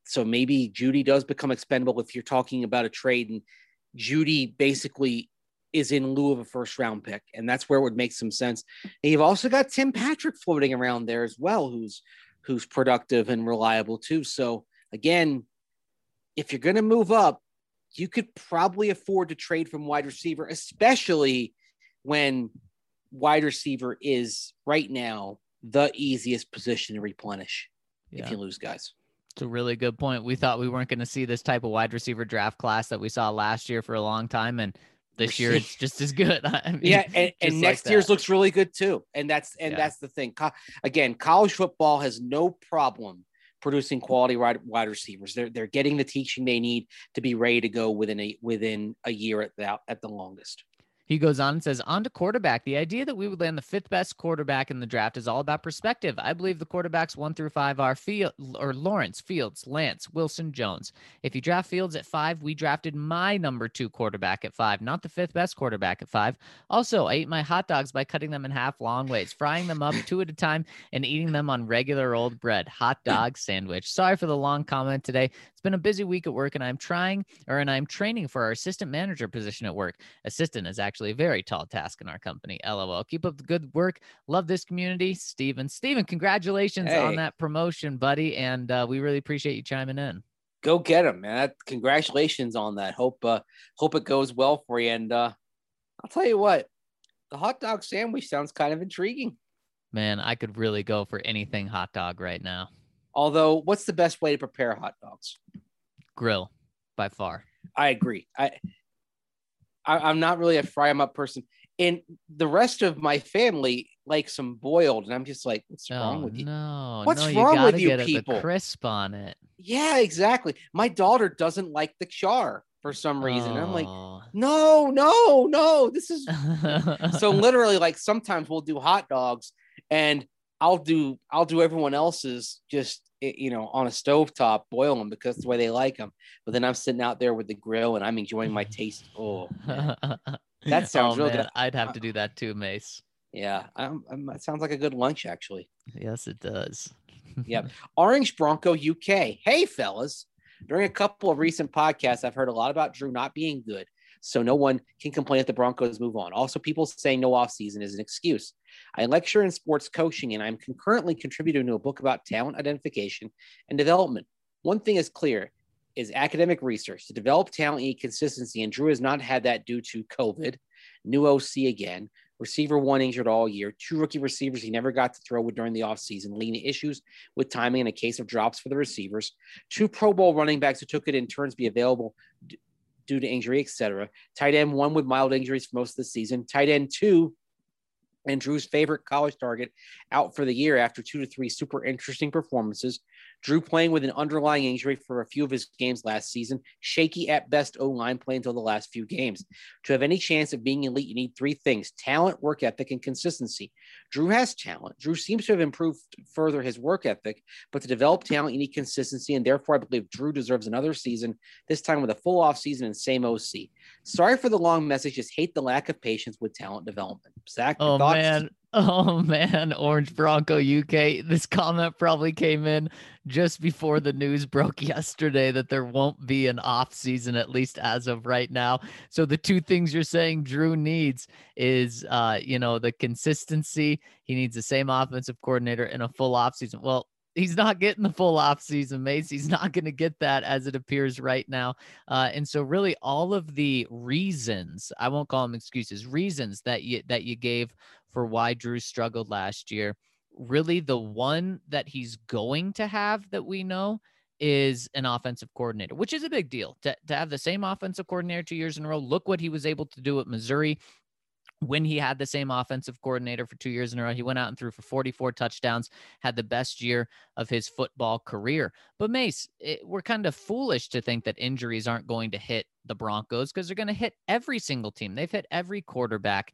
So maybe Judy does become expendable if you're talking about a trade, and Judy basically is in lieu of a first round pick. And that's where it would make some sense. And you've also got Tim Patrick floating around there as well, who's productive and reliable too. So again, if you're going to move up, you could probably afford to trade from wide receiver, especially when wide receiver is right now the easiest position to replenish if you lose guys. It's a really good point. We thought we weren't going to see this type of wide receiver draft class that we saw last year for a long time. And this year it's just as good. I mean, yeah. And next year's looks really good too. And that's the thing. Again, college football has no problem producing quality wide receivers. They're getting the teaching they need to be ready to go within a year at the longest. He goes on and says, on to quarterback. The idea that we would land the 5th best quarterback in the draft is all about perspective. I believe the quarterbacks 1 through 5 are Lawrence, Fields, Lance, Wilson, Jones. If you draft Fields at 5, we drafted my number 2 quarterback at 5, not the 5th best quarterback at 5. Also, I ate my hot dogs by cutting them in half long ways, frying them up 2 at a time, and eating them on regular old bread. Hot dog sandwich. Sorry for the long comment today. It's been a busy week at work, and I'm training for our assistant manager position at work. Assistant is actually a very tall task in our company. LOL. Keep up the good work. Love this community. Steven, congratulations on that promotion, buddy. And we really appreciate you chiming in. Go get him, man. Congratulations on that. Hope it goes well for you. And I'll tell you what, the hot dog sandwich sounds kind of intriguing. Man, I could really go for anything hot dog right now. Although, what's the best way to prepare hot dogs? Grill, by far. I agree. I'm not really a fry 'em up person. And the rest of my family likes them boiled. And I'm just like, what's wrong with you? What's wrong with you people? The crisp on it. Yeah, exactly. My daughter doesn't like the char for some reason. I'm like, no. This is so literally like sometimes we'll do hot dogs and I'll do everyone else's just, on a stovetop, boil them because the way they like them. But then I'm sitting out there with the grill and I'm enjoying my taste. Oh, man. That sounds real good. I'd have to do that too, Mace. Yeah, it sounds like a good lunch, actually. Yes, it does. Yep. Orange Bronco UK. Hey, fellas. During a couple of recent podcasts, I've heard a lot about Drew not being good, so no one can complain if the Broncos move on. Also, people saying no offseason is an excuse. I lecture in sports coaching, and I'm concurrently contributing to a book about talent identification and development. One thing is clear is academic research. To develop talent, you need consistency, and Drew has not had that due to COVID, new OC again, receiver 1 injured all year, 2 rookie receivers he never got to throw with during the offseason, leading to issues with timing and a case of drops for the receivers, 2 Pro Bowl running backs who took it in turns be available due to injury, etc. Tight end 1 with mild injuries for most of the season. Tight end 2, and Drew's favorite college target, out for the year after 2 to 3 super interesting performances. Drew playing with an underlying injury for a few of his games last season. Shaky at best O-line play until the last few games. To have any chance of being elite, you need 3 things: talent, work ethic, and consistency. Drew has talent. Drew seems to have improved further his work ethic, but to develop talent, you need consistency, and therefore I believe Drew deserves another season, this time with a full offseason and same OC. Sorry for the long message, just hate the lack of patience with talent development. Zach, your thoughts? Oh man, Orange Bronco UK. This comment probably came in just before the news broke yesterday that there won't be an off season, at least as of right now. So the 2 things you're saying Drew needs is, the consistency. He needs the same offensive coordinator in a full off season. Well, he's not getting the full off season, Mace. He's not going to get that as it appears right now. And so really all of the reasons, I won't call them excuses, reasons that you gave for why Drew struggled last year, really the one that he's going to have that we know is an offensive coordinator, which is a big deal to have the same offensive coordinator 2 years in a row. Look what he was able to do at Missouri. When he had the same offensive coordinator for 2 years in a row, he went out and threw for 44 touchdowns, had the best year of his football career. But Mace, we're kind of foolish to think that injuries aren't going to hit the Broncos because they're going to hit every single team. They've hit every quarterback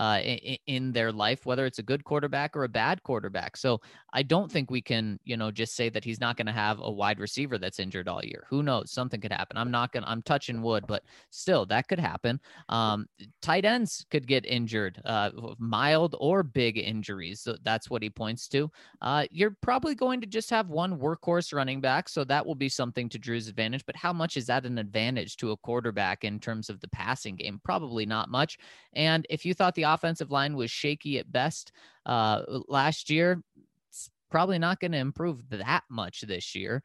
in their life, whether it's a good quarterback or a bad quarterback. So I don't think we can, just say that he's not going to have a wide receiver that's injured all year. Who knows? Something could happen. I'm touching wood, but still that could happen. Tight ends could get injured, mild or big injuries. So that's what he points to. You're probably going to just have one workhorse running back. So that will be something to Drew's advantage. But how much is that an advantage to a quarterback in terms of the passing game? Probably not much. And if you thought the offensive line was shaky at best last year, it's probably not going to improve that much this year.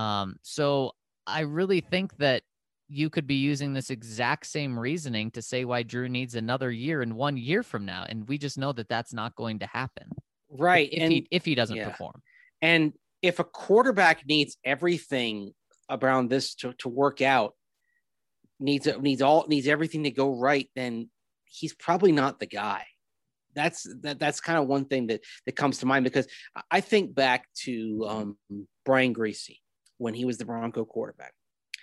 So I really think that you could be using this exact same reasoning to say why Drew needs another year and 1 year from now. And we just know that that's not going to happen. Right. If he doesn't perform. And if a quarterback needs everything around this to work out, needs everything to go right, then he's probably not the guy. That's kind of one thing that comes to mind, because I think back to Brian Griese when he was the Bronco quarterback.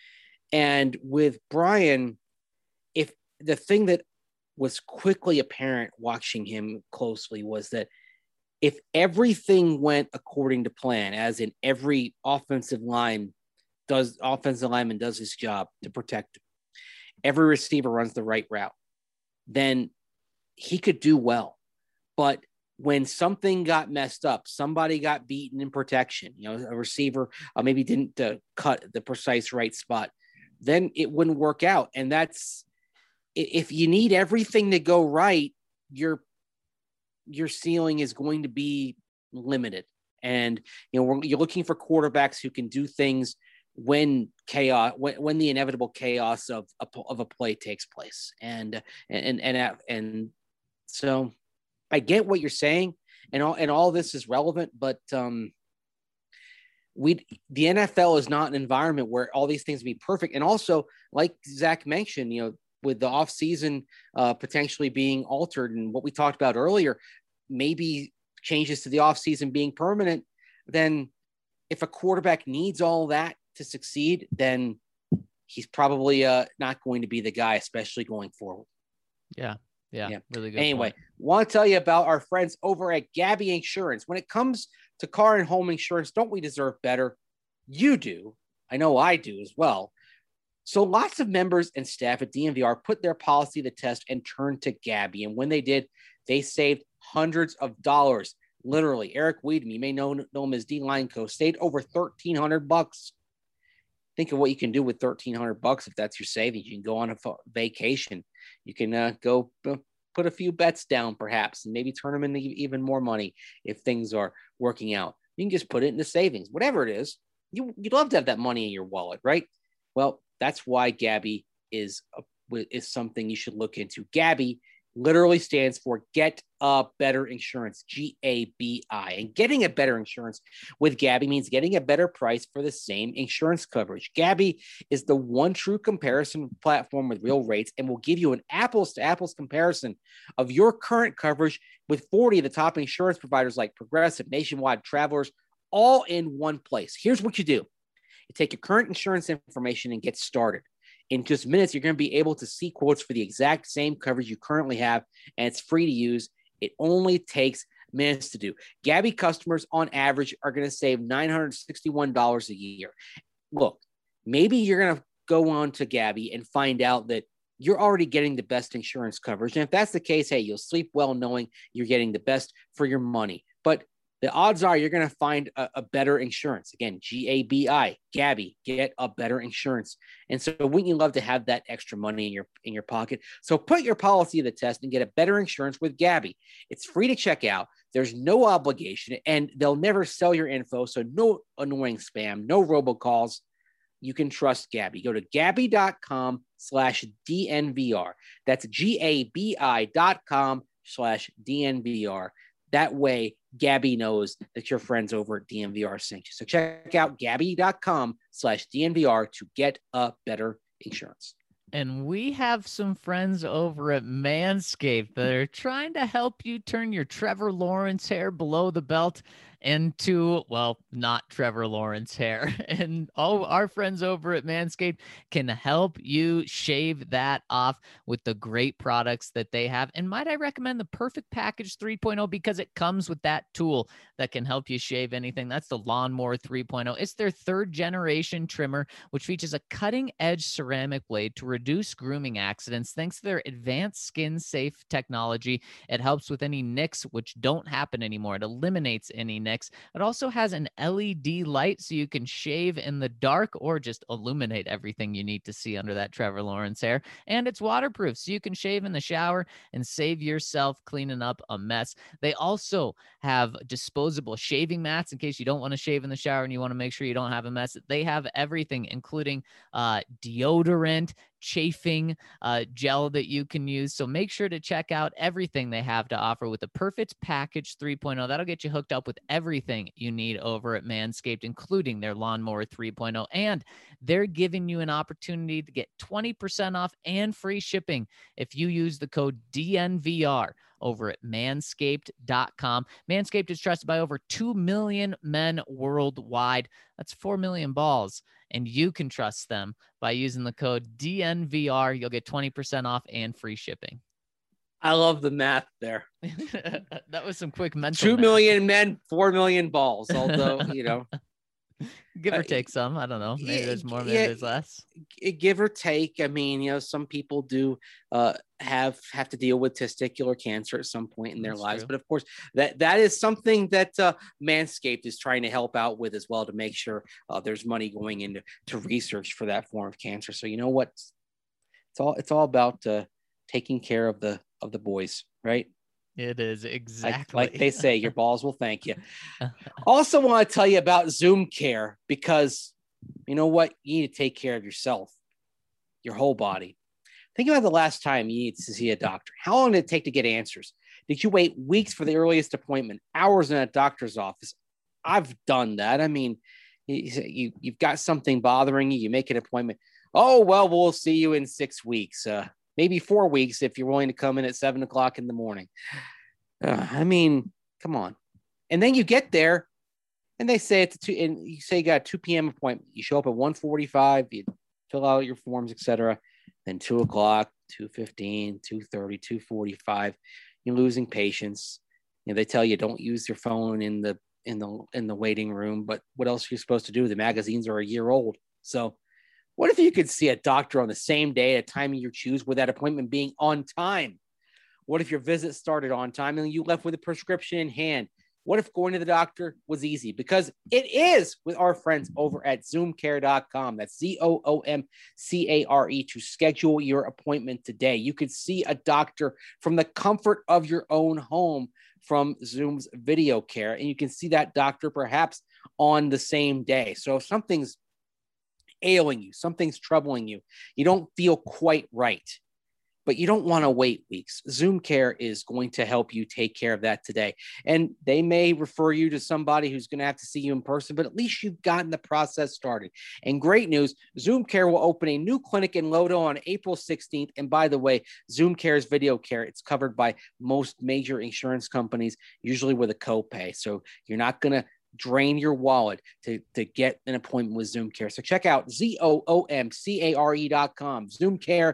And with Brian, if the thing that was quickly apparent watching him closely was that if everything went according to plan, as in every offensive lineman does his job to protect him, every receiver runs the right route, then he could do well. But when something got messed up, somebody got beaten in protection, a receiver maybe didn't cut the precise right spot, then it wouldn't work out. And that's, if you need everything to go right, your ceiling is going to be limited. And, you're looking for quarterbacks who can do things when the inevitable chaos of a play takes place. And so I get what you're saying, and all this is relevant, but the NFL is not an environment where all these things be perfect. And also, like Zach mentioned, with the offseason potentially being altered, and what we talked about earlier, maybe changes to the offseason being permanent, then if a quarterback needs all that to succeed, then he's probably not going to be the guy, especially going forward. Yeah. Really good. Anyway, want to tell you about our friends over at Gabi Insurance. When it comes to car and home insurance, don't we deserve better? You do. I know I do as well. So lots of members and staff at DNVR put their policy to the test and turned to Gabi. And when they did, they saved hundreds of dollars. Literally, Eric Weedman, you may know him as D Lineco, saved over $1,300. Think of what you can do with $1,300 if that's your savings. You can go on a vacation. You can go put a few bets down, perhaps, and maybe turn them into even more money if things are working out. You can just put it into savings, whatever it is. You'd love to have that money in your wallet, right? Well, that's why Gabi is something you should look into. Gabi literally stands for Get a Better Insurance, GABI. And getting a better insurance with Gabi means getting a better price for the same insurance coverage. Gabi is the one true comparison platform with real rates and will give you an apples-to-apples comparison of your current coverage with 40 of the top insurance providers like Progressive, Nationwide, Travelers, all in one place. Here's what you do. You take your current insurance information and get started. In just minutes, you're going to be able to see quotes for the exact same coverage you currently have, and it's free to use. It only takes minutes to do. Gabi customers, on average, are going to save $961 a year. Look, maybe you're going to go on to Gabi and find out that you're already getting the best insurance coverage. And if that's the case, hey, you'll sleep well knowing you're getting the best for your money. But the odds are you're going to find a better insurance. Again, GABI, Gabi, get a better insurance. And so wouldn't you love to have that extra money in your pocket? So put your policy to the test and get a better insurance with Gabi. It's free to check out. There's no obligation, and they'll never sell your info. So no annoying spam, no robocalls. You can trust Gabi. Go to Gabi.com/DNVR. That's GABI.com/DNVR. That way, Gabi knows that your friends over at DNVR sent you. So check out Gabi.com/DNVR to get a better insurance. And we have some friends over at Manscaped that are trying to help you turn your Trevor Lawrence hair below the belt and to, well, not Trevor Lawrence hair. And all our friends over at Manscaped can help you shave that off with the great products that they have. And might I recommend the Perfect Package 3.0 because it comes with that tool that can help you shave anything. That's the Lawnmower 3.0. It's their third generation trimmer, which features a cutting edge ceramic blade to reduce grooming accidents thanks to their advanced skin safe technology. It helps with any nicks, which don't happen anymore. It eliminates any nicks. It also has an LED light so you can shave in the dark or just illuminate everything you need to see under that Trevor Lawrence hair. And it's waterproof so you can shave in the shower and save yourself cleaning up a mess. They also have disposable shaving mats in case you don't want to shave in the shower and you want to make sure you don't have a mess. They have everything, including deodorant, chafing gel that you can use. So make sure to check out everything they have to offer with the Perfect Package 3.0. That'll get you hooked up with everything you need over at Manscaped, including their Lawnmower 3.0. And they're giving you an opportunity to get 20% off and free shipping if you use the code DNVR over at manscaped.com. Manscaped is trusted by over 2 million men worldwide. That's 4 million balls. And you can trust them by using the code DNVR. You'll get 20% off and free shipping. I love the math there. That was some quick mental 2 math. million men, 4 million balls. Although, give or take some. I don't know. Maybe there's more, maybe there's less. Give or take. I mean, some people do have to deal with testicular cancer at some point in their lives. True. But of course, that is something that Manscaped is trying to help out with as well to make sure there's money going into research for that form of cancer. So you know what? It's all about taking care of the boys, right? It is exactly like they say, your balls will thank you. Also want to tell you about Zoom Care because you know what? You need to take care of yourself, your whole body. Think about the last time you needed to see a doctor. How long did it take to get answers? Did you wait weeks for the earliest appointment, hours in a doctor's office? I've done that. I mean, you've got something bothering you. You make an appointment. Oh, well, we'll see you in 6 weeks. Maybe 4 weeks if you're willing to come in at 7 o'clock in the morning. I mean, come on. And then you get there and they say it's and you say you got a 2 p.m. appointment. You show up at 1:45, you fill out your forms, etc. Then 2 o'clock, 2:15, 2:30, 2:45, you're losing patience. They tell you don't use your phone in the waiting room, but what else are you supposed to do? The magazines are a year old. So what if you could see a doctor on the same day at a time you choose with that appointment being on time? What if your visit started on time and you left with a prescription in hand? What if going to the doctor was easy? Because it is with our friends over at ZoomCare.com. That's ZoomCare to schedule your appointment today. You could see a doctor from the comfort of your own home from Zoom's video care, and you can see that doctor perhaps on the same day. So if something's ailing you, something's troubling you, you don't feel quite right, but you don't want to wait weeks. Zoom Care is going to help you take care of that today. And they may refer you to somebody who's going to have to see you in person, but at least you've gotten the process started. And great news, Zoom Care will open a new clinic in Lodo on April 16th. And by the way, Zoom Care's video care, it's covered by most major insurance companies, usually with a copay. So you're not going to drain your wallet to get an appointment with Zoom Care. So check out ZoomCare.com, Zoom Care,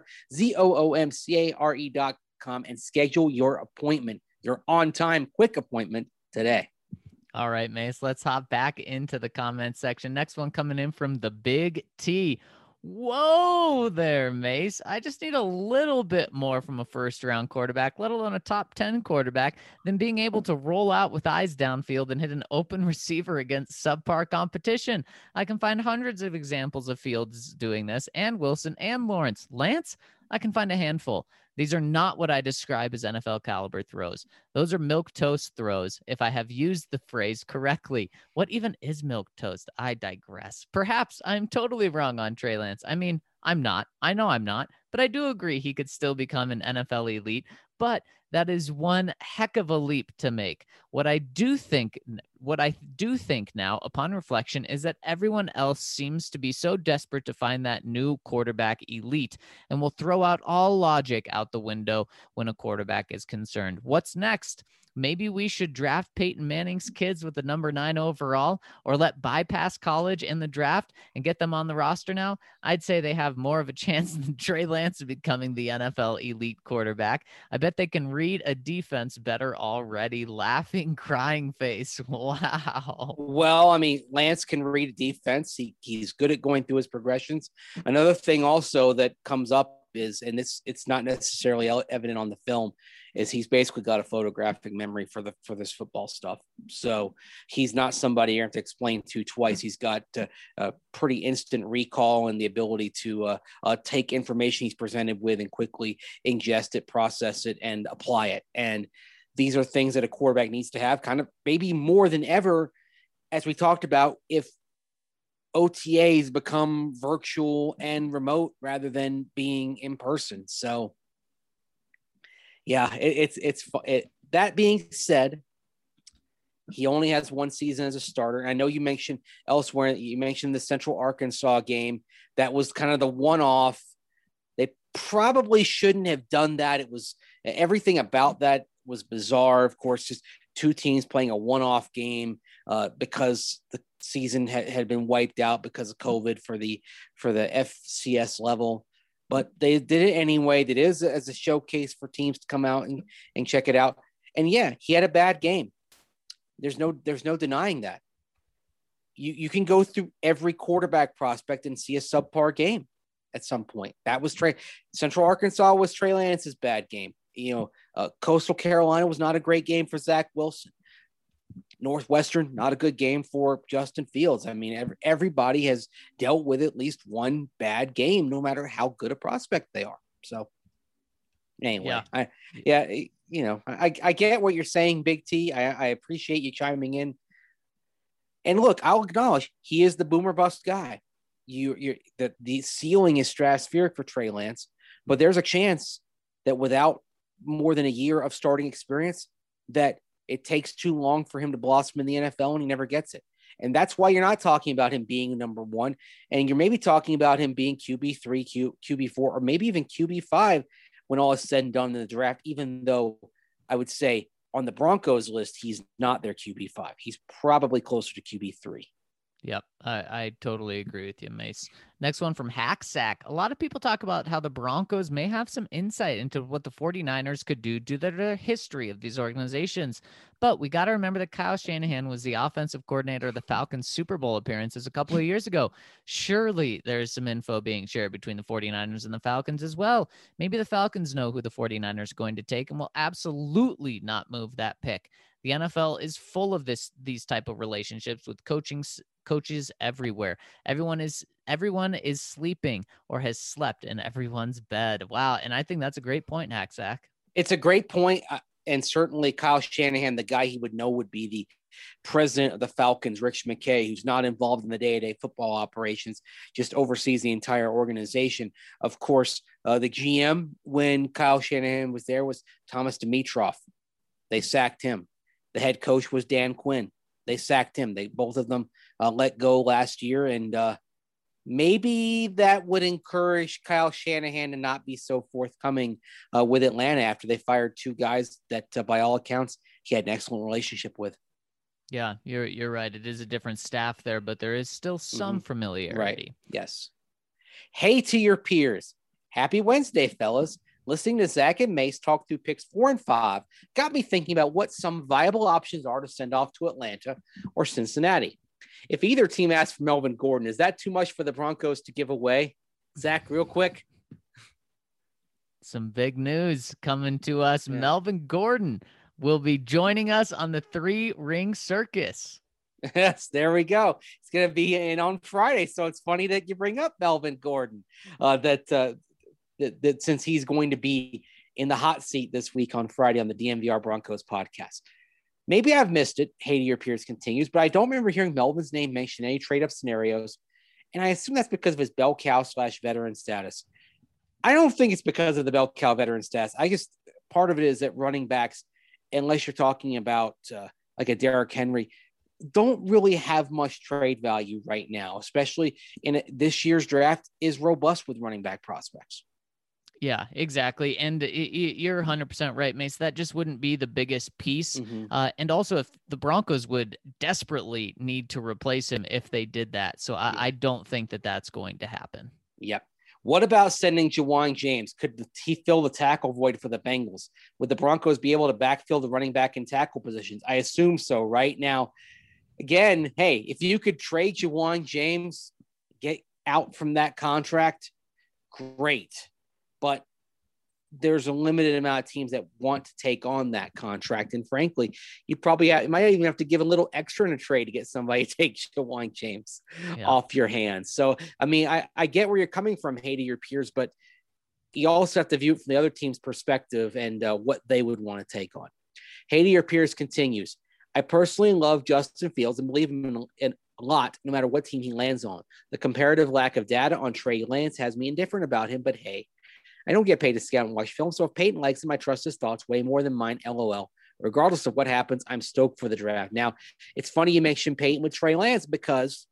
ZoomCare.com, and schedule your appointment, your on-time quick appointment today. All right, Mace, let's hop back into the comment section. Next one coming in from the Big T. Whoa there, Mace. I just need a little bit more from a first-round quarterback, let alone a top 10 quarterback, than being able to roll out with eyes downfield and hit an open receiver against subpar competition. I can find hundreds of examples of Fields doing this, and Wilson and Lawrence. Lance, I can find a handful. These are not what I describe as NFL caliber throws. Those are milquetoast throws, if I have used the phrase correctly. What even is milquetoast? I digress. Perhaps I'm totally wrong on Trey Lance. I mean, I'm not. I know I'm not. But I do agree he could still become an NFL elite. but that is one heck of a leap to make. What I do think now, upon reflection, is that everyone else seems to be so desperate to find that new quarterback elite and will throw out all logic out the window when a quarterback is concerned. What's next? Maybe we should draft Peyton Manning's kids with the number 9 overall, or let bypass college in the draft and get them on the roster now. I'd say they have more of a chance than Trey Lance of becoming the NFL elite quarterback. I bet they can read a defense better already. Laughing, crying face. Wow. Well, I mean, Lance can read a defense. He's good at going through his progressions. Another thing also that comes up is, and it's not necessarily evident on the film, is he's basically got a photographic memory for this football stuff. So he's not somebody you have to explain to twice. He's got a pretty instant recall and the ability to take information he's presented with and quickly ingest it, process it, and apply it. And these are things that a quarterback needs to have, kind of maybe more than ever, as we talked about, if OTAs become virtual and remote rather than being in person. So yeah, that being said, he only has one season as a starter. And I know you mentioned elsewhere, you mentioned the Central Arkansas game. That was kind of the one-off. They probably shouldn't have done that. It was, everything about that was bizarre. Of course, just two teams playing a one-off game because the season had been wiped out because of COVID for the FCS level. But they did it anyway. It is as a showcase for teams to come out and check it out. And yeah, he had a bad game. There's no denying that. You can go through every quarterback prospect and see a subpar game at some point. That was Central Arkansas was Trey Lance's bad game. Coastal Carolina was not a great game for Zach Wilson. Northwestern, not a good game for Justin Fields. I mean, everybody has dealt with at least one bad game, no matter how good a prospect they are. So anyway, I get what you're saying, Big T. I appreciate you chiming in. And look, I'll acknowledge he is the boomer bust guy. The ceiling is stratospheric for Trey Lance, but there's a chance that without more than a year of starting experience, that it takes too long for him to blossom in the NFL and he never gets it. And that's why you're not talking about him being number one. And you're maybe talking about him being QB3, QB4, or maybe even QB5 when all is said and done in the draft, even though I would say on the Broncos list, he's not their QB5. He's probably closer to QB3. Yep, I totally agree with you, Mace. Next one from Hacksack. A lot of people talk about how the Broncos may have some insight into what the 49ers could do due to their history of these organizations. But we got to remember that Kyle Shanahan was the offensive coordinator of the Falcons' Super Bowl appearances a couple of years ago. Surely there's some info being shared between the 49ers and the Falcons as well. Maybe the Falcons know who the 49ers are going to take and will absolutely not move that pick. The NFL is full of these type of relationships with coaches everywhere. Everyone is sleeping or has slept in everyone's bed. Wow. And I think that's a great point, Hacksack. It's a great point. And certainly Kyle Shanahan, the guy he would know would be the president of the Falcons, Rich McKay, who's not involved in the day-to-day football operations, just oversees the entire organization. Of course, the GM when Kyle Shanahan was there was Thomas Dimitroff. They sacked him. The head coach was Dan Quinn. They sacked him. Both of them let go last year. And maybe that would encourage Kyle Shanahan to not be so forthcoming with Atlanta after they fired two guys that, by all accounts, he had an excellent relationship with. Yeah, you're right. It is a different staff there, but there is still some familiarity. Right. Yes. Hey to your peers. Happy Wednesday, fellas. Listening to Zach and Mace talk through picks 4 and 5 got me thinking about what some viable options are to send off to Atlanta or Cincinnati. If either team asks for Melvin Gordon, is that too much for the Broncos to give away? Zach, real quick. Some big news coming to us. Yeah. Melvin Gordon will be joining us on the 3-ring circus. Yes, there we go. It's going to be in on Friday, so it's funny that you bring up Melvin Gordon. That since he's going to be in the hot seat this week on Friday on the DNVR Broncos podcast. Maybe I've missed it. Hey to your peers continues, but I don't remember hearing Melvin's name mentioned in any trade-up scenarios, and I assume that's because of his bell cow / veteran status. I don't think it's because of the bell cow veteran status. part of it is that running backs, unless you're talking about like a Derrick Henry, don't really have much trade value right now, especially in this year's draft is robust with running back prospects. Yeah, exactly. And you're 100% right, Mace. That just wouldn't be the biggest piece. And also, if the Broncos would desperately need to replace him if they did that. So I don't think that that's going to happen. Yep. What about sending Ja'Wuan James? Could he fill the tackle void for the Bengals? Would the Broncos be able to backfill the running back and tackle positions? I assume so. Right now, again, hey, if you could trade Ja'Wuan James, get out from that contract, great. But there's a limited amount of teams that want to take on that contract. And frankly, you might even have to give a little extra in a trade to get somebody to take Ja'Wuan James off your hands. So, I mean, I get where you're coming from, Hey, to your peers, but you also have to view it from the other team's perspective and what they would want to take on. Hey, to your peers continues. I personally love Justin Fields and believe him in a lot, no matter what team he lands on. The comparative lack of data on Trey Lance has me indifferent about him, but hey, I don't get paid to scout and watch film, so if Peyton likes him, I trust his thoughts way more than mine, LOL. Regardless of what happens, I'm stoked for the draft. Now, it's funny you mentioned Peyton with Trey Lance because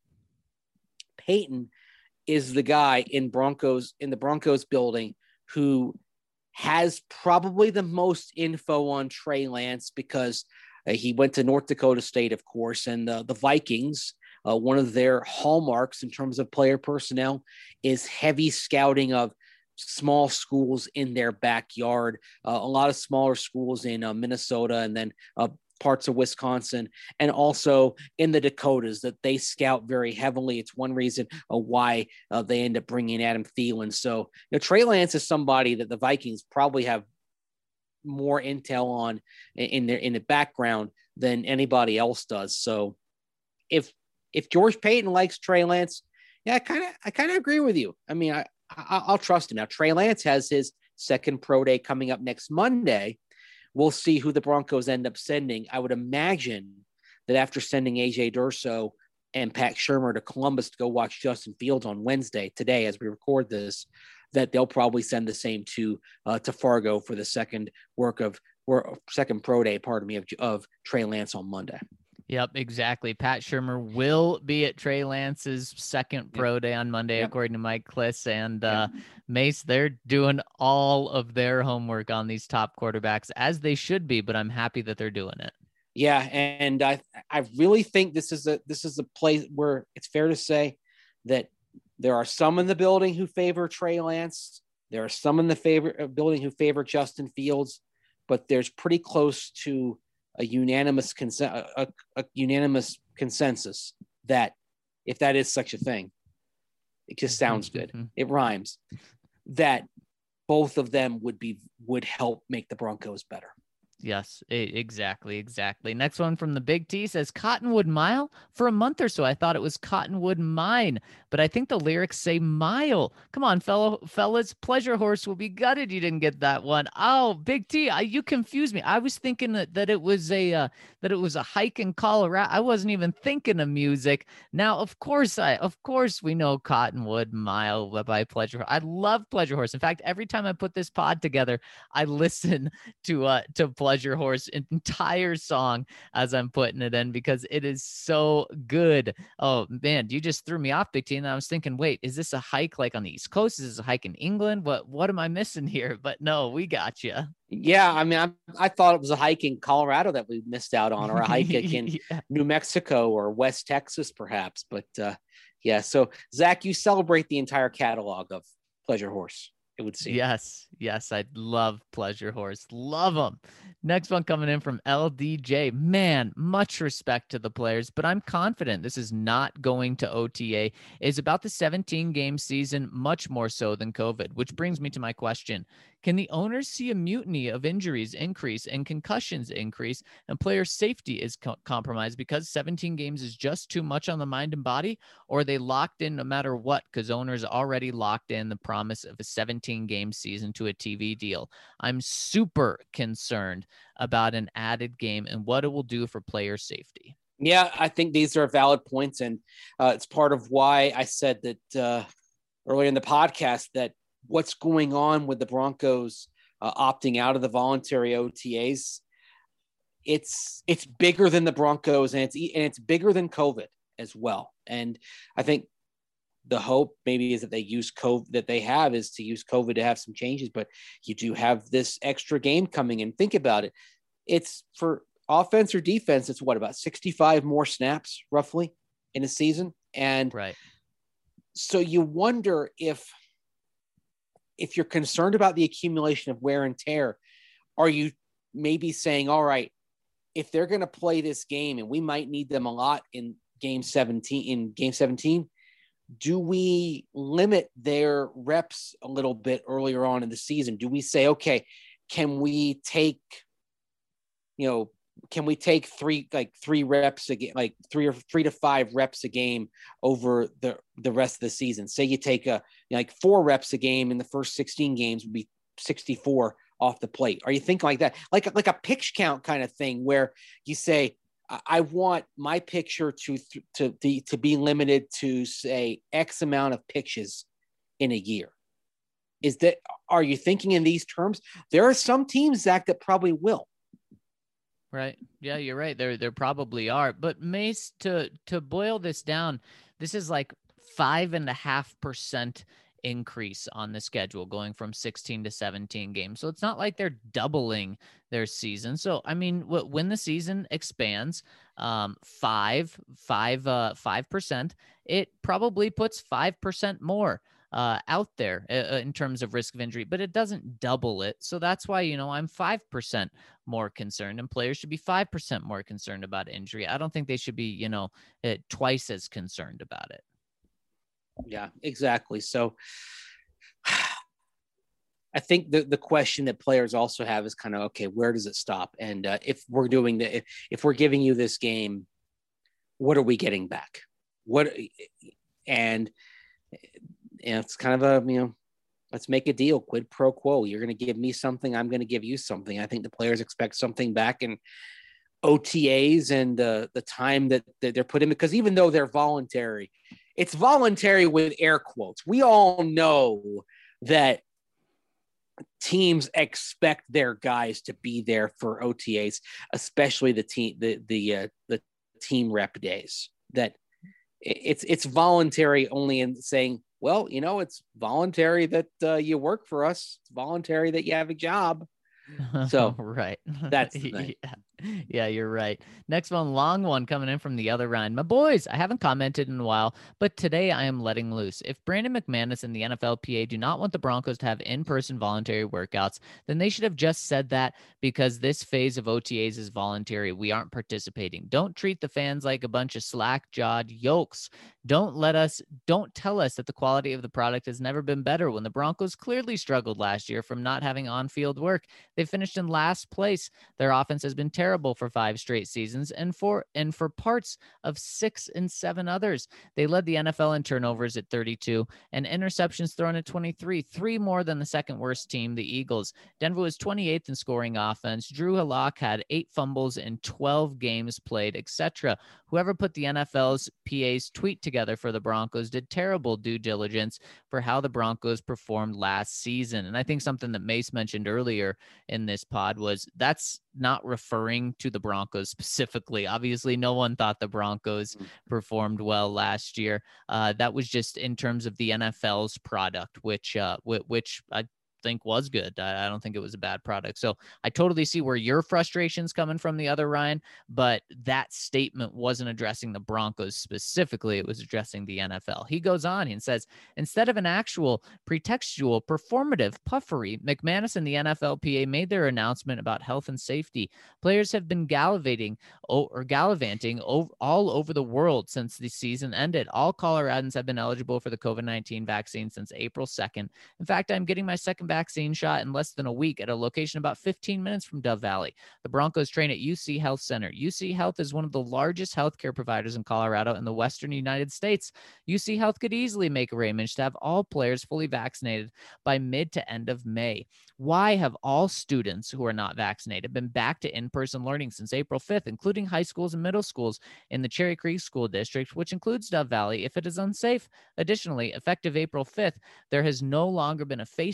Peyton is the guy in the Broncos building who has probably the most info on Trey Lance because he went to North Dakota State, of course, and the Vikings, one of their hallmarks in terms of player personnel is heavy scouting of small schools in their backyard, a lot of smaller schools in Minnesota and then parts of Wisconsin, and also in the Dakotas that they scout very heavily. It's one reason why they end up bringing Adam Thielen. So, Trey Lance is somebody that the Vikings probably have more intel on in the background than anybody else does. So if George Payton likes Trey Lance, yeah, I kind of agree with you. I mean, I'll trust him. Now, Trey Lance has his second pro day coming up next Monday. We'll see who the Broncos end up sending. I would imagine that after sending AJ Durso and Pat Shurmur to Columbus to go watch Justin Fields on Wednesday, today, as we record this, that they'll probably send the same to Fargo for the second pro day, of Trey Lance on Monday. Yep, exactly. Pat Shurmur will be at Trey Lance's second pro day on Monday, according to Mike Klis and Mace. They're doing all of their homework on these top quarterbacks, as they should be, but I'm happy that they're doing it. Yeah, and I really think this is a place where it's fair to say that there are some in the building who favor Trey Lance. There are some in the building who favor Justin Fields, but there's pretty close to a unanimous consensus that, if that is such a thing, it just sounds good. It rhymes, that both of them would help make the Broncos better. Yes, exactly. Next one from the Big T says Cottonwood Mile. For a month or so, I thought it was Cottonwood Mine, but I think the lyrics say mile. Come on, fellas. Pleasure Horse will be gutted you didn't get that one. Oh, Big T, you confused me. I was thinking that it was a hike in Colorado. I wasn't even thinking of music. Now, of course we know Cottonwood Mile by Pleasure Horse. I love Pleasure Horse. In fact, every time I put this pod together, I listen to Pleasure Horse entire song as I'm putting it in because it is so good. Oh man, you just threw me off, Big T. And I was thinking, wait, is this a hike like on the East Coast? Is this a hike in England? What am I missing here? But no, we got you. Yeah, I mean, I thought it was a hike in Colorado that we missed out on, or a hike in New Mexico or West Texas, perhaps. But yeah, so Zach, you celebrate the entire catalog of Pleasure Horse, it would seem. Yes, I love Pleasure Horse. Love them. Next one coming in from LDJ. Man, much respect to the players, but I'm confident this is not going to OTA. It's about the 17-game season, much more so than COVID, which brings me to my question. Can the owners see a mutiny of injuries increase and concussions increase and player safety is compromised because 17 games is just too much on the mind and body? Or are they locked in no matter what because owners already locked in the promise of a 17-game season to a TV deal? I'm super concerned about an added game and what it will do for player safety. Yeah, I think these are valid points. And it's part of why I said that earlier in the podcast that what's going on with the Broncos opting out of the voluntary OTAs. It's bigger than the Broncos, and it's bigger than COVID as well. And I think the hope maybe is that they use COVID, that they have is to use COVID to have some changes, but you do have this extra game coming in. Think about it. It's for offense or defense. It's what, about 65 more snaps roughly in a season. And right. So you wonder if you're concerned about the accumulation of wear and tear, are you maybe saying, all right, if they're going to play this game and we might need them a lot in game 17, do we limit their reps a little bit earlier on in the season? Do we say, okay, can we take three reps a game, like 3 to 5 reps a game over the rest of the season? Say you take 4 reps a game in the first 16 games would be 64 off the plate. Are you thinking like that? Like a pitch count kind of thing where you say, I want my picture to be limited to, say, X amount of pitches in a year. Are you thinking in these terms? There are some teams, Zach, that probably will. Right. Yeah, you're right. There probably are. But Mace, to boil this down, this is like 5.5% increase on the schedule going from 16 to 17 games. So it's not like they're doubling their season. So, I mean, when the season expands 5%, it probably puts 5% more out there in terms of risk of injury, but it doesn't double it. So that's why, I'm 5% more concerned, and players should be 5% more concerned about injury. I don't think they should be, twice as concerned about it. Yeah, exactly. So I think the question that players also have is kind of, okay, where does it stop? And if we're giving you this game, what are we getting back? And it's kind of let's make a deal, quid pro quo. You're going to give me something, I'm going to give you something. I think the players expect something back in OTAs and the time that they're put in, because even though they're voluntary, it's voluntary with air quotes. We all know that teams expect their guys to be there for OTAs, especially the team rep days. That it's voluntary only in saying, well, it's voluntary that you work for us. It's voluntary that you have a job. So right. That's the thing. Yeah, you're right. Next one, long one coming in from the other Ryan. My boys, I haven't commented in a while, but today I am letting loose. If Brandon McManus and the NFLPA do not want the Broncos to have in-person voluntary workouts, then they should have just said that, because this phase of OTAs is voluntary. We aren't participating. Don't treat the fans like a bunch of slack-jawed yokes. Don't tell us that the quality of the product has never been better when the Broncos clearly struggled last year from not having on-field work. They finished in last place. Their offense has been terrible for 5 straight seasons and for parts of 6 and 7 others. They led the NFL in turnovers at 32 and interceptions thrown at 23, 3 more than the second worst team, the Eagles. Denver was 28th in scoring offense. Drew Halak had 8 fumbles in 12 games played, etc. Whoever put the NFL's PA's tweet together for the Broncos did terrible due diligence for how the Broncos performed last season. And I think something that Mace mentioned earlier in this pod was that's not referring to the Broncos specifically. Obviously, no one thought the Broncos performed well last year. That was just in terms of the NFL's product, which I think was good. I don't think it was a bad product. So I totally see where your frustration's coming from, the other Ryan, but that statement wasn't addressing the Broncos specifically. It was addressing the NFL. He goes on and says, instead of an actual pretextual performative puffery, McManus and the NFLPA made their announcement about health and safety. Players have been gallivanting all over the world since the season ended. All Coloradans have been eligible for the COVID-19 vaccine since April 2nd. In fact, I'm getting my second vaccine shot in less than a week at a location about 15 minutes from Dove Valley. The Broncos train at UC Health Center. UC Health is one of the largest healthcare providers in Colorado and the Western United States. UC Health could easily make arrangements to have all players fully vaccinated by mid to end of May. Why have all students who are not vaccinated been back to in-person learning since April 5th, including high schools and middle schools in the Cherry Creek School District, which includes Dove Valley, if it is unsafe? Additionally, effective April 5th, there has no longer been a face covering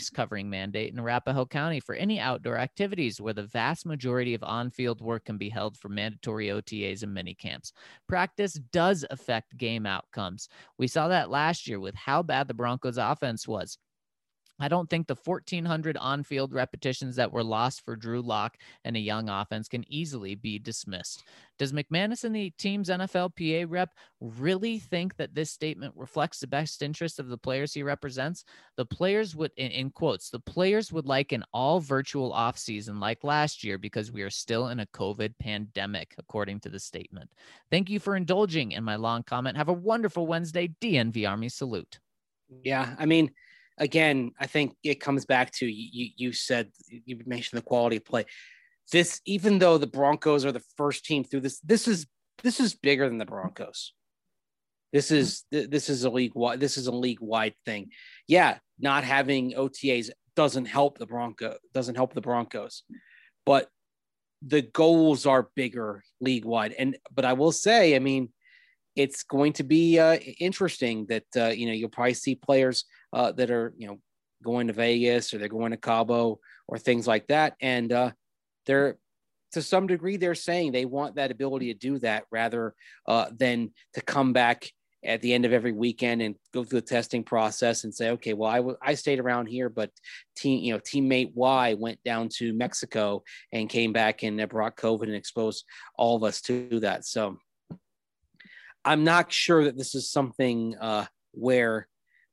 mandate in Arapahoe County for any outdoor activities where the vast majority of on-field work can be held for mandatory OTAs and mini camps. Practice does affect game outcomes. We saw that last year with how bad the Broncos offense was. I don't think the 1,400 on-field repetitions that were lost for Drew Lock and a young offense can easily be dismissed. Does McManus and the team's NFLPA rep really think that this statement reflects the best interest of the players he represents? The players would, in quotes, the players would like an all-virtual offseason like last year because we are still in a COVID pandemic, according to the statement. Thank you for indulging in my long comment. Have a wonderful Wednesday. DNV Army salute. Yeah, I mean, again, I think it comes back to you said, you mentioned the quality of play. This, even though the Broncos are the first team through this is bigger than the Broncos. This is a league wide thing. Yeah, not having OTAs doesn't help the Broncos, but the goals are bigger league wide. But I will say, I mean, it's going to be interesting that you'll probably see players that are going to Vegas or they're going to Cabo or things like that, and they're, to some degree, they're saying they want that ability to do that rather than to come back at the end of every weekend and go through the testing process and say, okay, well, I stayed around here, but teammate Y went down to Mexico and came back and brought COVID and exposed all of us to that. So I'm not sure that this is something where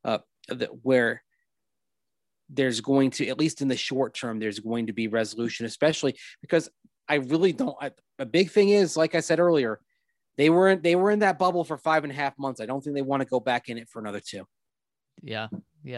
there's going to, at least in the short term, there's going to be resolution, especially because I really don't. A big thing is, like I said earlier, they were in that bubble for 5.5 months. I don't think they want to go back in it for another 2. Yeah.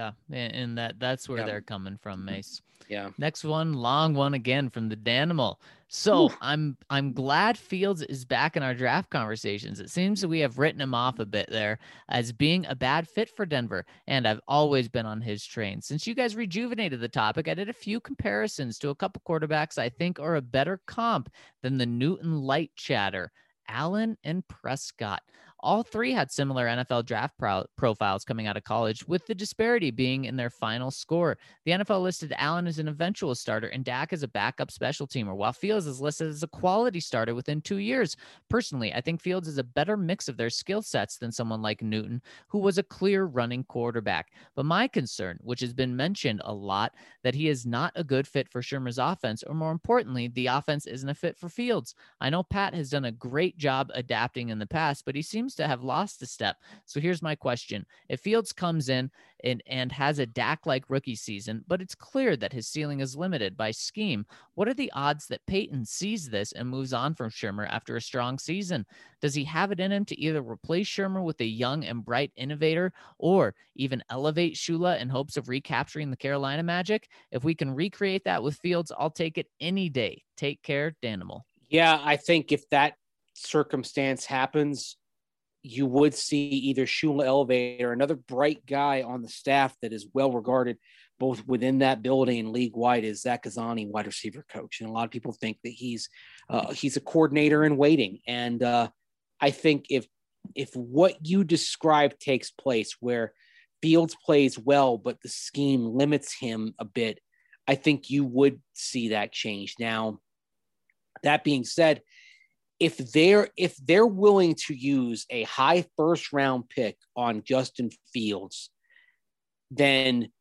And that's where they're coming from, Mace. Yeah. Next one, long one again from the Danimal. So Oof. I'm glad Fields is back in our draft conversations. It seems that we have written him off a bit there as being a bad fit for Denver, and I've always been on his train. Since you guys rejuvenated the topic, I did a few comparisons to a couple quarterbacks I think are a better comp than the Newton light chatter, Allen and Prescott. All three had similar NFL draft profiles coming out of college, with the disparity being in their final score. The NFL listed Allen as an eventual starter and Dak as a backup special teamer, while Fields is listed as a quality starter within 2 years. Personally, I think Fields is a better mix of their skill sets than someone like Newton, who was a clear running quarterback. But my concern, which has been mentioned a lot, that he is not a good fit for Shurmur's offense, or more importantly, the offense isn't a fit for Fields. I know Pat has done a great job adapting in the past, but he seems to have lost a step. So here's my question. If Fields comes in and has a Dak-like rookie season, but it's clear that his ceiling is limited by scheme, what are the odds that Peyton sees this and moves on from Shurmur after a strong season? Does he have it in him to either replace Shurmur with a young and bright innovator or even elevate Shula in hopes of recapturing the Carolina magic? If we can recreate that with Fields, I'll take it any day. Take care, Danimal. Yeah, I think if that circumstance happens, you would see either Shula elevate or another bright guy on the staff that is well regarded both within that building and league wide is Zach Ghazzani, wide receiver coach. And a lot of people think that he's a coordinator in waiting. And I think if what you described takes place, where Fields plays well, but the scheme limits him a bit, I think you would see that change. Now, that being said, if they're willing to use a high first round pick on Justin Fields, then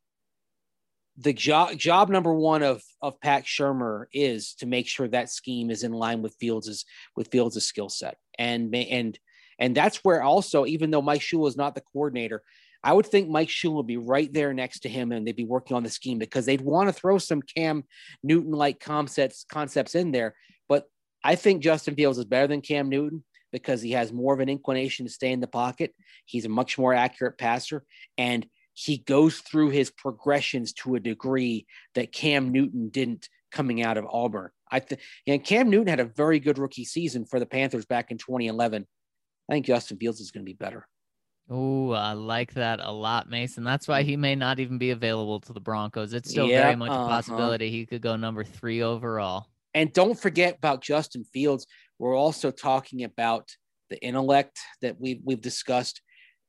the job number one of Pat Shurmur is to make sure that scheme is in line with Fields' skill set. And that's where also, even though Mike Shula is not the coordinator, I would think Mike Shula would be right there next to him and they'd be working on the scheme because they'd want to throw some Cam Newton-like concepts in there. But I think Justin Fields is better than Cam Newton because he has more of an inclination to stay in the pocket. He's a much more accurate passer, and he goes through his progressions to a degree that Cam Newton didn't coming out of Auburn. Cam Newton had a very good rookie season for the Panthers back in 2011. I think Justin Fields is going to be better. Oh, I like that a lot, Mason. That's why he may not even be available to the Broncos. It's still very much a possibility he could go number 3 overall. And don't forget about Justin Fields. We're also talking about the intellect that we've discussed.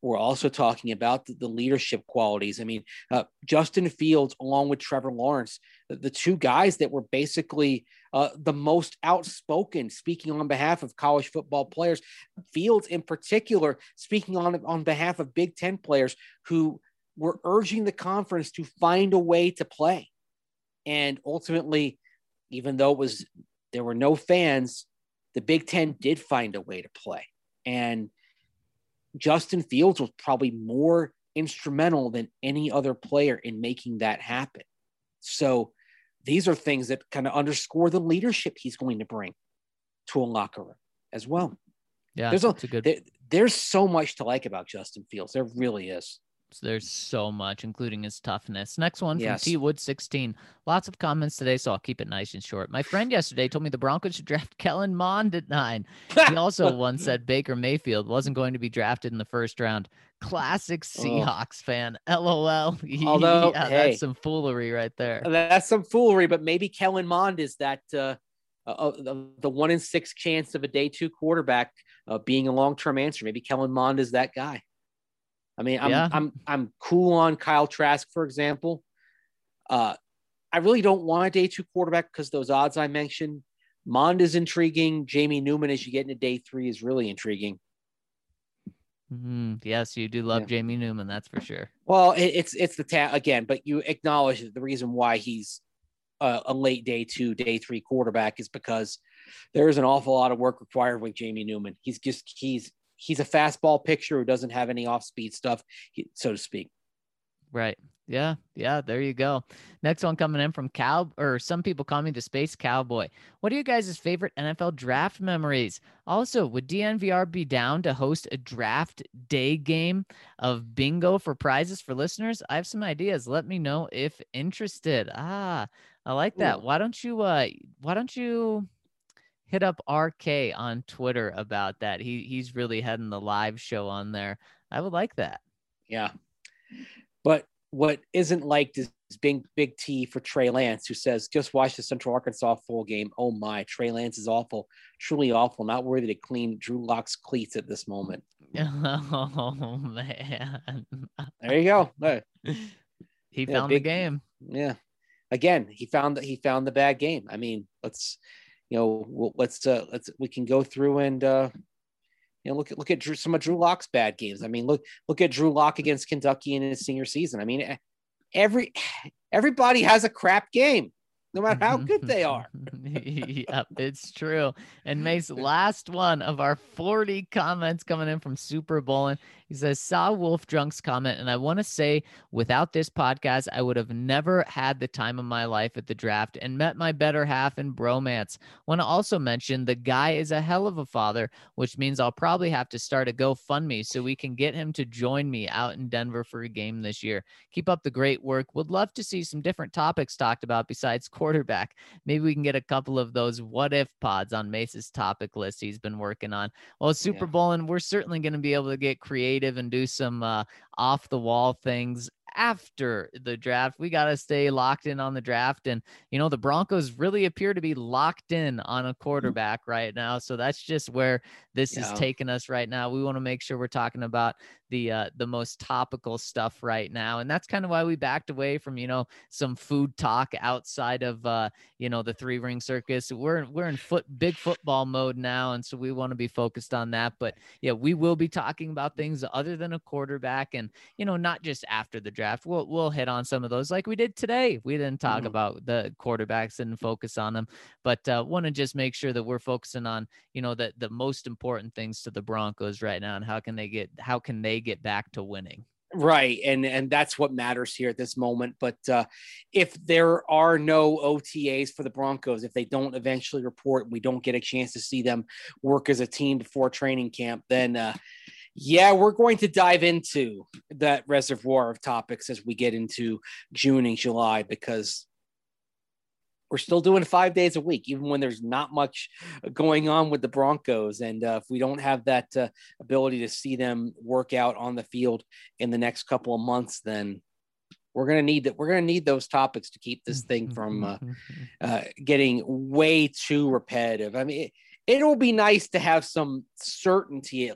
we're also talking about the leadership qualities. I mean, Justin Fields, along with Trevor Lawrence, the two guys that were basically the most outspoken, speaking on behalf of college football players. Fields, in particular, speaking on behalf of Big Ten players who were urging the conference to find a way to play. And ultimately, even though there were no fans, the Big Ten did find a way to play. And Justin Fields was probably more instrumental than any other player in making that happen. So these are things that kind of underscore the leadership he's going to bring to a locker room as well. Yeah, there's so much to like about Justin Fields. There really is. There's so much, including his toughness. Next one from Yes. T Wood 16. Lots of comments today, so I'll keep it nice and short. My friend yesterday told me the Broncos should draft Kellen Mond at 9. He also once said Baker Mayfield wasn't going to be drafted in the first round. Classic Seahawks fan. LOL. Although, yeah, hey, that's some foolery right there. That's some foolery, but maybe Kellen Mond is that the 1 in 6 chance of a day 2 quarterback being a long-term answer. Maybe Kellen Mond is that guy. I mean, I'm cool on Kyle Trask, for example. I really don't want a day 2 quarterback because those odds I mentioned. Mond is intriguing. Jamie Newman, as you get into day 3, is really intriguing. Yes, you do love Jamie Newman, that's for sure. Well, it's the again, but you acknowledge that the reason why he's a late day 2, day 3 quarterback is because there is an awful lot of work required with Jamie Newman. He's a fastball pitcher who doesn't have any off-speed stuff, so to speak. Right. Yeah. There you go. Next one coming in from some people call me the Space Cowboy. What are you guys' favorite NFL draft memories? Also, would DNVR be down to host a draft day game of bingo for prizes for listeners? I have some ideas. Let me know if interested. I like that. Ooh. Why don't you hit up RK on Twitter about that? He's really heading the live show on there. I would like that. Yeah. But what isn't liked is Big T for Trey Lance, who says, just watch the Central Arkansas full game. Oh my, Trey Lance is awful, truly awful, not worthy to clean Drew Lock's cleats at this moment. Oh man. There you go. He found the game. Yeah. Again, he found the bad game. I mean, we can go through and look at some of Drew Lock's bad games. I mean, look at Drew Lock against Kentucky in his senior season. I mean, everybody has a crap game, no matter how good they are. Yep, it's true. And Mace, last one of our 40 comments coming in from Super Bowlin'. He says, saw Wolf Drunk's comment, and I want to say, without this podcast, I would have never had the time of my life at the draft and met my better half in bromance. Want to also mention the guy is a hell of a father, which means I'll probably have to start a GoFundMe so we can get him to join me out in Denver for a game this year. Keep up the great work. Would love to see some different topics talked about besides quarterback. Maybe we can get a couple of those what if pods on Mace's topic list he's been working on. Well, Super Bowlin', we're certainly going to be able to get creative and do some off the wall things after the draft. We got to stay locked in on the draft. And, the Broncos really appear to be locked in on a quarterback right now. So that's just where this is taking us right now. We want to make sure we're talking about the most topical stuff right now. And that's kind of why we backed away from, some food talk outside of, the 3-ring circus. We're in big football mode now. And so we want to be focused on that. But yeah, we will be talking about things other than a quarterback and, not just after the draft. We'll hit on some of those like we did today. We didn't talk about the quarterbacks and focus on them, but want to just make sure that we're focusing on, the most important things to the Broncos right now and how can they get back to winning. Right. And that's what matters here at this moment. But if there are no OTAs for the Broncos, if they don't eventually report, we don't get a chance to see them work as a team before training camp, then we're going to dive into that reservoir of topics as we get into June and July, because we're still doing 5 days a week, even when there's not much going on with the Broncos. And if we don't have that ability to see them work out on the field in the next couple of months, then we're going to need those topics to keep this thing from getting way too repetitive. I mean, it'll be nice to have some certainty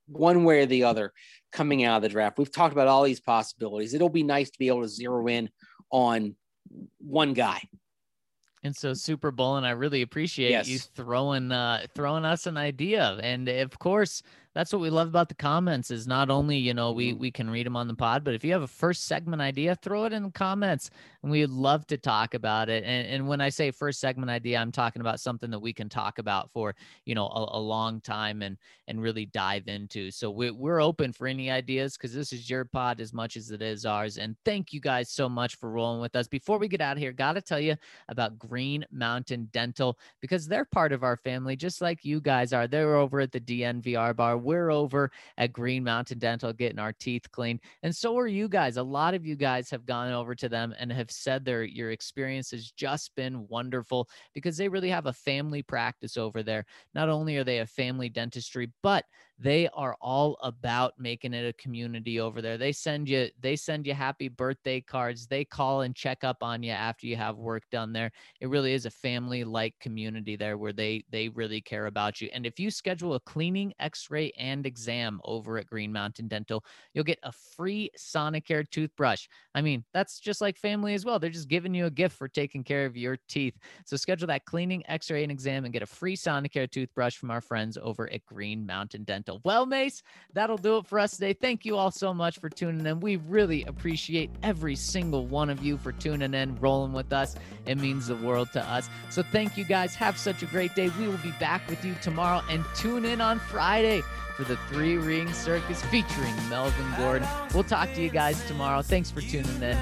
one way or the other coming out of the draft. We've talked about all these possibilities. It'll be nice to be able to zero in on one guy. And so Super Bowl, and I really appreciate you throwing us an idea. And of course, that's what we love about the comments is not only, you know, we can read them on the pod, but if you have a first segment idea, throw it in the comments and we'd love to talk about it. And when I say first segment idea, I'm talking about something that we can talk about for, you know, a long time and really dive into. So we're open for any ideas because this is your pod as much as it is ours. And thank you guys so much for rolling with us. Before we get out of here, got to tell you about Green Mountain Dental because they're part of our family, just like you guys are. They're over at the DNVR bar. We're over at Green Mountain Dental getting our teeth cleaned. And so are you guys. A lot of you guys have gone over to them and have said your experience has just been wonderful because they really have a family practice over there. Not only are they a family dentistry, but they are all about making it a community over there. They send you happy birthday cards. They call and check up on you after you have work done there. It really is a family-like community there where they really care about you. And if you schedule a cleaning, x-ray, and exam over at Green Mountain Dental, you'll get a free Sonicare toothbrush. I mean, that's just like family as well. They're just giving you a gift for taking care of your teeth. So schedule that cleaning, x-ray, and exam and get a free Sonicare toothbrush from our friends over at Green Mountain Dental. Well, Mace, that'll do it for us today. Thank you all so much for tuning in. We really appreciate every single one of you for tuning in, rolling with us. It means the world to us. So thank you guys. Have such a great day. We will be back with you tomorrow and tune in on Friday for the 3 Ring Circus featuring Melvin Gordon. We'll talk to you guys tomorrow. Thanks for tuning in.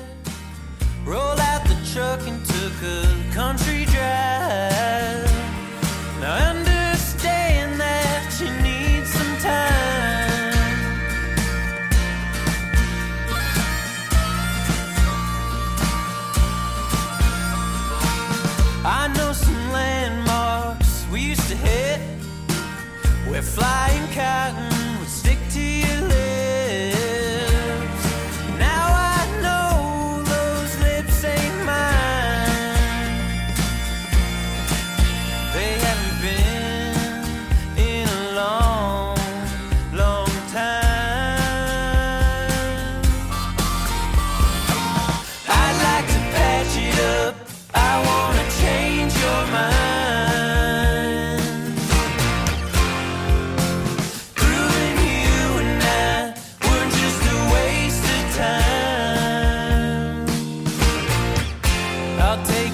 Roll out the truck and took a country drive. Now understand that you need some time. I know some landmarks we used to hit where flying cotton would stick to your lips. Now I know those lips ain't mine. They haven't been in a long, long time. I'd like to patch it up. I wanna change your mind. Proving you and I were just a waste of time. I'll take